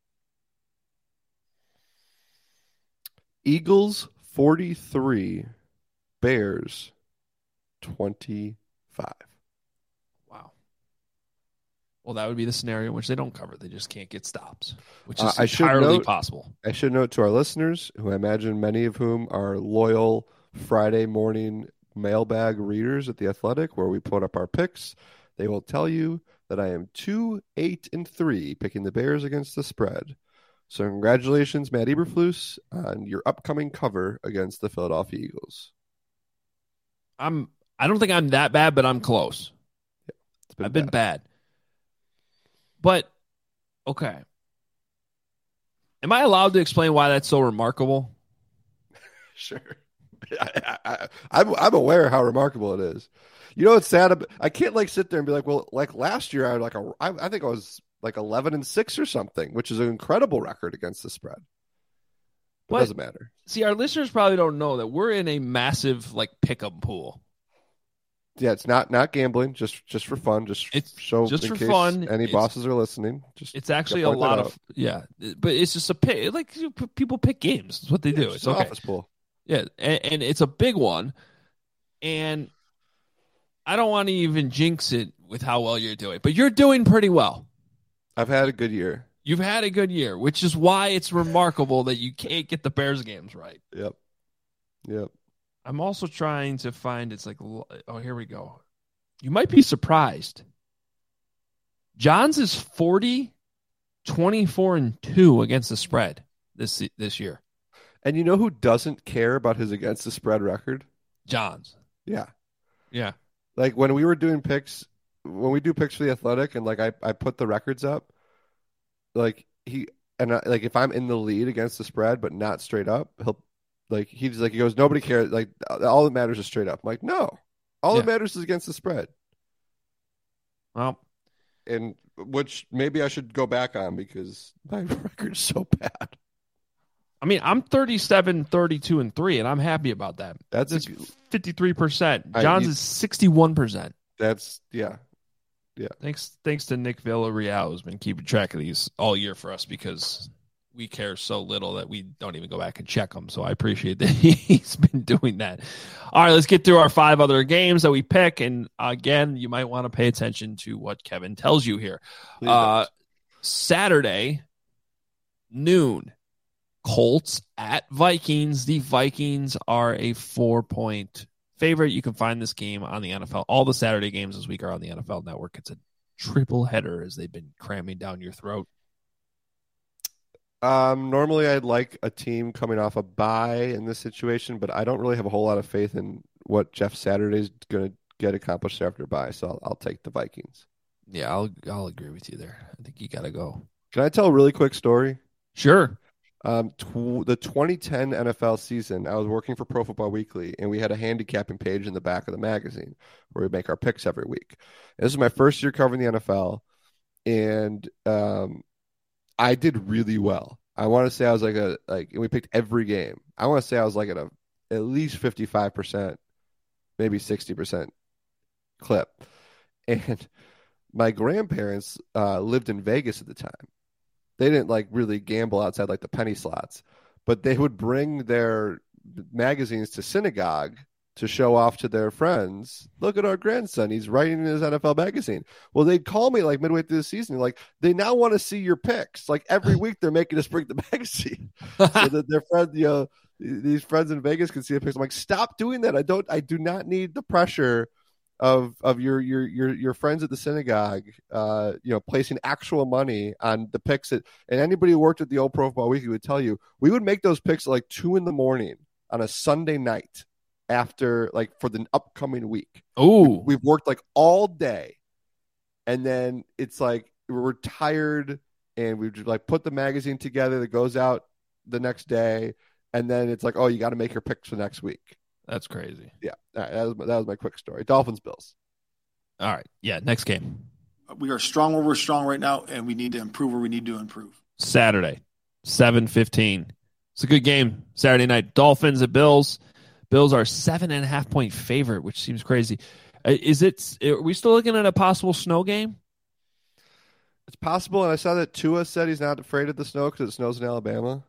Eagles 43, Bears 25. Wow. Well, that would be the scenario in which they don't cover. They just can't get stops, which is entirely possible. I should note to our listeners, who I imagine many of whom are loyal Friday morning mailbag readers at The Athletic, where we put up our picks, they will tell you that I am 2-8-3 picking the Bears against the spread. So congratulations, Matt Eberflus, on your upcoming cover against the Philadelphia Eagles. I don't think I'm that bad, but I'm close. Yeah, I've been bad. But, okay. Am I allowed to explain why that's so remarkable? Sure. I'm aware how remarkable it is. You know what's sad? I can't sit there and be like, well, like last year I think I was like 11-6 or something, which is an incredible record against the spread. But it doesn't matter. See, our listeners probably don't know that we're in a massive pick-up pool. Yeah, it's not gambling, just for fun, It's so just in for case fun. any bosses are listening. It's actually a lot of but it's just a pick. Like people pick games. That's what they do. It's an okay. office pool. Yeah, and it's a big one, and I don't want to even jinx it with how well you're doing, but you're doing pretty well. I've had a good year. You've had a good year, which is why it's remarkable that you can't get the Bears games right. Yep. I'm also trying to find, it's like, oh, here we go. You might be surprised. John's is 40, 24, and 2 against the spread this year. And you know who doesn't care about his against the spread record? John's. Yeah. Like when we were doing picks, when we do picks for the Athletic, and like I put the records up, like if I'm in the lead against the spread but not straight up, he goes, nobody cares. Like all that matters is straight up. I'm like, no, all that matters is against the spread. Well, and which maybe I should go back on because my record's so bad. I mean, I'm 37, 32, and 3, and I'm happy about that. That's 53%. John's is 61%. That's yeah. Thanks to Nick Villarreal, who's been keeping track of these all year for us because we care so little that we don't even go back and check them. So I appreciate that he's been doing that. All right, let's get through our 5 other games that we pick. And again, you might want to pay attention to what Kevin tells you here. Saturday, noon, Colts at Vikings. The Vikings are a 4-point favorite. You can find this game on the NFL. All the Saturday games this week are on the NFL Network. It's a triple header as they've been cramming down your throat. Normally I'd like a team coming off a bye in this situation, but I don't really have a whole lot of faith in what Jeff Saturday's going to get accomplished after a bye, so I'll take the Vikings. Yeah, I'll agree with you there. I think you got to go. Can I tell a really quick story? Sure. The 2010 NFL season, I was working for Pro Football Weekly, and we had a handicapping page in the back of the magazine where we make our picks every week. And this is my first year covering the NFL, and I did really well. I want to say I was and we picked every game. I want to say I was like at least 55%, maybe 60% clip. And my grandparents lived in Vegas at the time. They didn't really gamble outside the penny slots, but they would bring their magazines to synagogue to show off to their friends. Look at our grandson. He's writing in his NFL magazine. Well, they'd call me midway through the season. They now want to see your picks. Every week they're making us bring the magazine so that their friends, these friends in Vegas can see the picks. I'm like, stop doing that. I do not need the pressure of your friends at the synagogue, placing actual money on the picks and anybody who worked at the old Pro Football Weekly would tell you, we would make those picks at 2 a.m. on a Sunday night after for the upcoming week. Oh, we've worked all day. And then it's we're tired and we put the magazine together that goes out the next day. And then it's oh, you got to make your picks for next week. That's crazy. Yeah, that was my quick story. Dolphins, Bills. All right. Yeah, next game. We are strong where we're strong right now, and we need to improve where we need to improve. Saturday, 7:15. It's a good game. Saturday night. Dolphins at Bills. Bills are 7.5-point favorite, which seems crazy. Are we still looking at a possible snow game? It's possible, and I saw that Tua said he's not afraid of the snow because it snows in Alabama.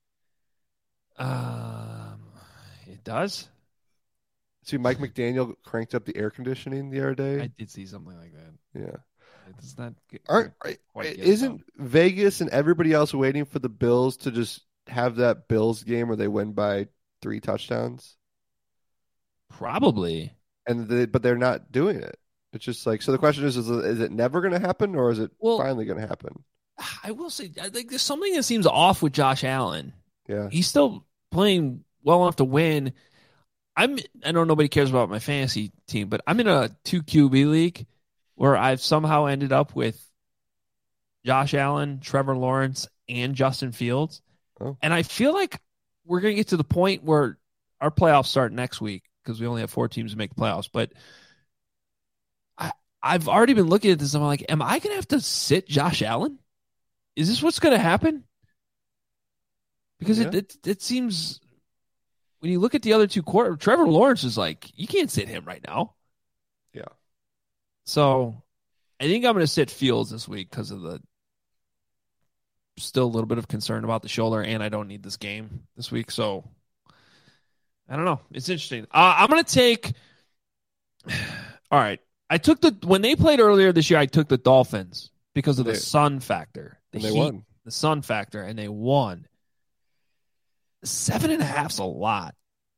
It does? See, Mike McDaniel cranked up the air conditioning the other day. I did see something like that. Yeah. It's not. Isn't Vegas and everybody else waiting for the Bills to just have that Bills game where they win by 3 touchdowns? Probably. But they're not doing it. It's just so the question is it never going to happen or is it finally going to happen? I will say, I think there's something that seems off with Josh Allen. Yeah. He's still playing well enough to win. I know nobody cares about my fantasy team, but I'm in a 2 QB league where I've somehow ended up with Josh Allen, Trevor Lawrence, and Justin Fields. Oh. And I feel like we're going to get to the point where our playoffs start next week because we only have 4 teams to make the playoffs. But I've already been looking at this. And I'm like, am I going to have to sit Josh Allen? Is this what's going to happen? Because it seems when you look at the other 2 quarters, Trevor Lawrence is you can't sit him right now. So I think I'm going to sit Fields this week because of the still a little bit of concern about the shoulder, and I don't need this game this week. So I don't know. It's interesting. I'm going to take. All right. I took when they played earlier this year, I took the Dolphins because of the sun factor. They won. The sun factor, and they won. 7.5's a lot.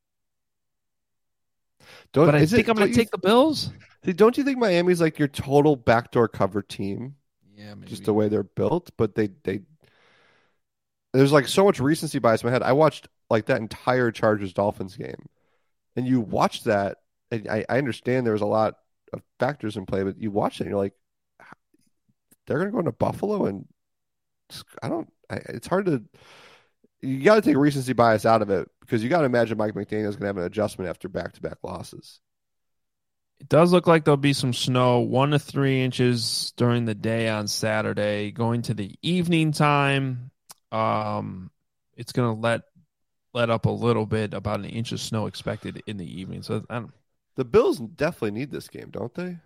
But I think I'm going to take the Bills. Don't you think Miami's like your total backdoor cover team? Yeah, maybe. Just the way they're built. But they there's like so much recency bias in my head. I watched like that entire Chargers-Dolphins game. And you watch that, and I understand there was a lot of factors in play, but you watch it and you're like, they're going to go into Buffalo, and it's hard to, you got to take recency bias out of it because you got to imagine Mike McDaniel's going to have an adjustment after back-to-back losses. It does look like there'll be some snow, 1 to 3 inches during the day on Saturday. Going to the evening time, it's going to let up a little bit, about an inch of snow expected in the evening. So the Bills definitely need this game, don't they?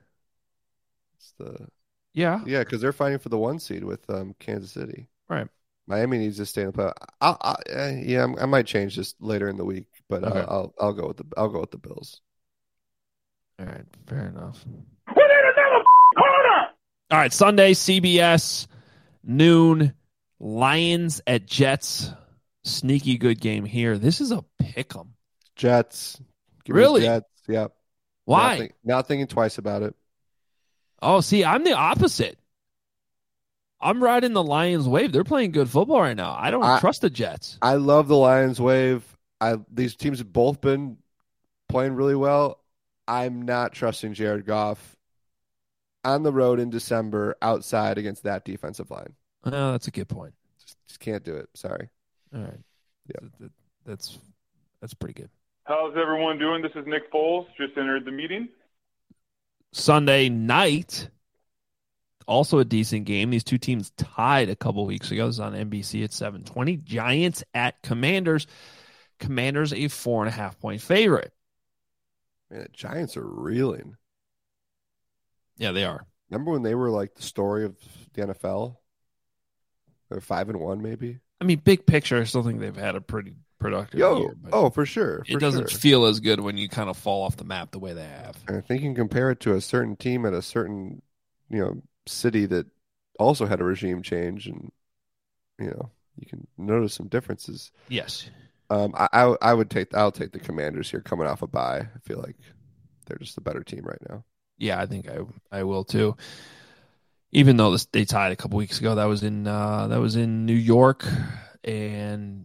Yeah, because they're fighting for the 1 seed with Kansas City. Right. Miami needs to stay in the playoff. I might change this later in the week, but okay. I'll go with the Bills. All right, fair enough. We need another corner. All right, Sunday, CBS, noon, Lions at Jets. Sneaky good game here. This is a pick'em. Jets. Really? Jets. Yep. Why? Not thinking twice about it. Oh, see, I'm the opposite. I'm riding the Lions wave. They're playing good football right now. I don't trust the Jets. I love the Lions wave. These teams have both been playing really well. I'm not trusting Jared Goff on the road in December outside against that defensive line. Oh, that's a good point. Just can't do it. Sorry. All right. Yeah, that's pretty good. How's everyone doing? This is Nick Foles. Just entered the meeting. Sunday night, also a decent game. These two teams tied a couple weeks ago. This is on NBC at 7:20. Giants at Commanders. Commanders a 4.5-point favorite. Man, the Giants are reeling. Yeah, they are. Remember when they were like the story of the NFL? They're 5-1, maybe. I mean, big picture, I still think they've had a pretty productive year. Oh, for sure. It doesn't feel as good when you kind of fall off the map the way they have. And I think you can compare it to a certain team at a certain, city that also had a regime change, and you can notice some differences. Yes. I'll take the Commanders here coming off a bye. I feel like they're just the better team right now. Yeah, I think I will too. Even though they tied a couple weeks ago, that was in New York, and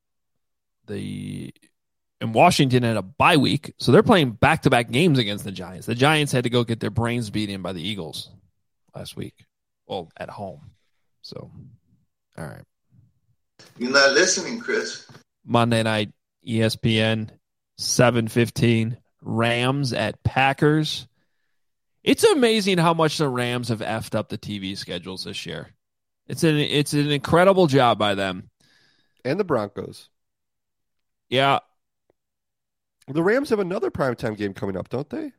Washington had a bye week, so they're playing back-to-back games against the Giants. The Giants had to go get their brains beat in by the Eagles last week, well, at home. So, all right. You're not listening, Chris. Monday night, ESPN, 7:15, Rams at Packers. It's amazing how much the Rams have effed up the TV schedules this year. It's an incredible job by them. And the Broncos. Yeah. The Rams have another primetime game coming up, don't they?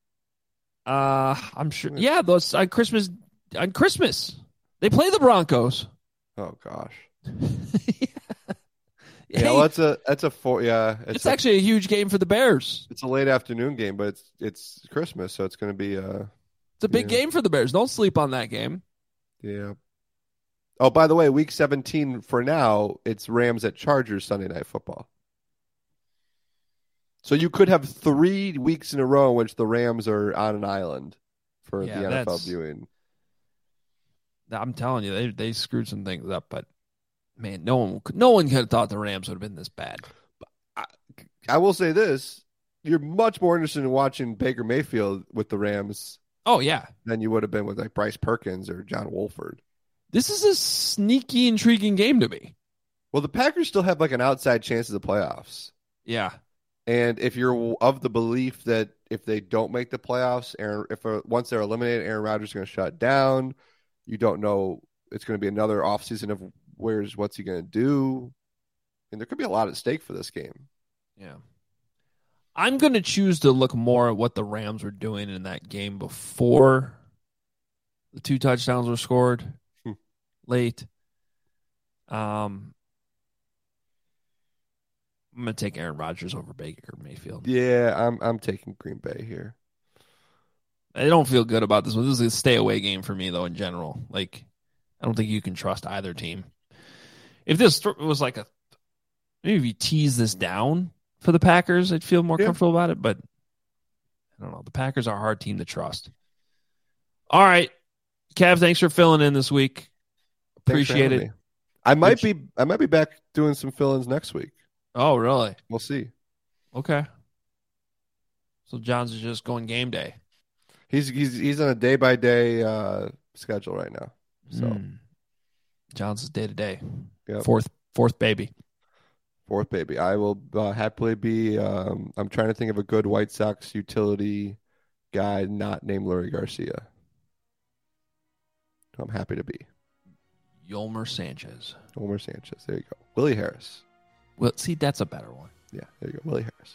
I'm sure. Yeah, those on Christmas. They play the Broncos. Oh gosh. Hey, well, that's a four. Yeah, it's actually a huge game for the Bears. It's a late afternoon game, but it's Christmas, so it's going to be it's a big game for the Bears. Don't sleep on that game. Yeah. Oh, by the way, week 17 for now, it's Rams at Chargers Sunday Night Football. So you could have 3 weeks in a row in which the Rams are on an island for the NFL viewing. I'm telling you, they screwed some things up, but man, no one could have thought the Rams would have been this bad. I will say this: you're much more interested in watching Baker Mayfield with the Rams. Oh yeah, than you would have been with like Bryce Perkins or John Wolford. This is a sneaky, intriguing game to me. Well, the Packers still have like an outside chance of the playoffs. Yeah. And if you're of the belief that if they don't make the playoffs, once they're eliminated, Aaron Rodgers is going to shut down. You don't know. It's going to be another offseason of what's he going to do. And there could be a lot at stake for this game. Yeah. I'm going to choose to look more at what the Rams were doing in that game before the 2 touchdowns were scored late. I'm going to take Aaron Rodgers over Baker Mayfield. Yeah, I'm taking Green Bay here. I don't feel good about this one. This is a stay away game for me, though, in general. Like, I don't think you can trust either team. If this was like maybe if you tease this down for the Packers, I'd feel more comfortable about it. But I don't know. The Packers are a hard team to trust. All right, Kev, thanks for filling in this week. Appreciate it. I might be back doing some fill-ins next week. Oh, really? We'll see. Okay. So John's is just going game day. He's on a day-by-day schedule right now. So John's is day-to-day. Yep. Fourth baby. Fourth baby. I will happily be. I'm trying to think of a good White Sox utility guy not named Lurie Garcia. I'm happy to be. Yolmer Sanchez. There you go. Willie Harris. Well, see, that's a better one. Yeah, there you go. Willie Harris.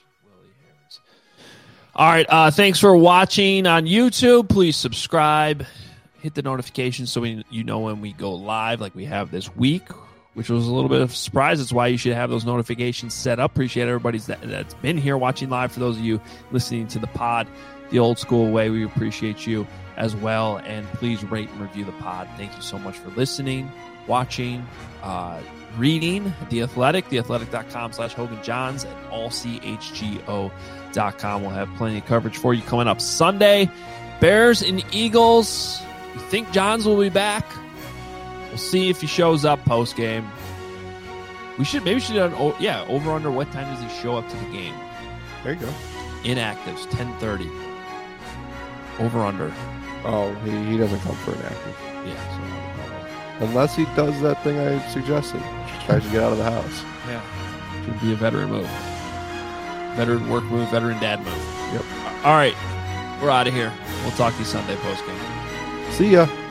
All right. Thanks for watching on YouTube. Please subscribe. Hit the notifications so you know when we go live like we have this week, which was a little bit of a surprise. That's why you should have those notifications set up. Appreciate everybody that's been here watching live. For those of you listening to the pod the old school way, we appreciate you as well. And please rate and review the pod. Thank you so much for listening, watching, reading The Athletic, theathletic.com/Hogan Johns, and allchgo.com. We'll have plenty of coverage for you coming up Sunday. Bears and Eagles. We think Johns will be back. We'll see if he shows up post game. Maybe we should do over under what time does he show up to the game? There you go. Inactives 10:30. Over under. Oh, he doesn't come for inactive. Yeah. So, unless he does that thing I suggested. Tries to get out of the house. Yeah. Should be a veteran move. Veteran work move, veteran dad move. Yep. All right. We're out of here. We'll talk to you Sunday post game. See ya.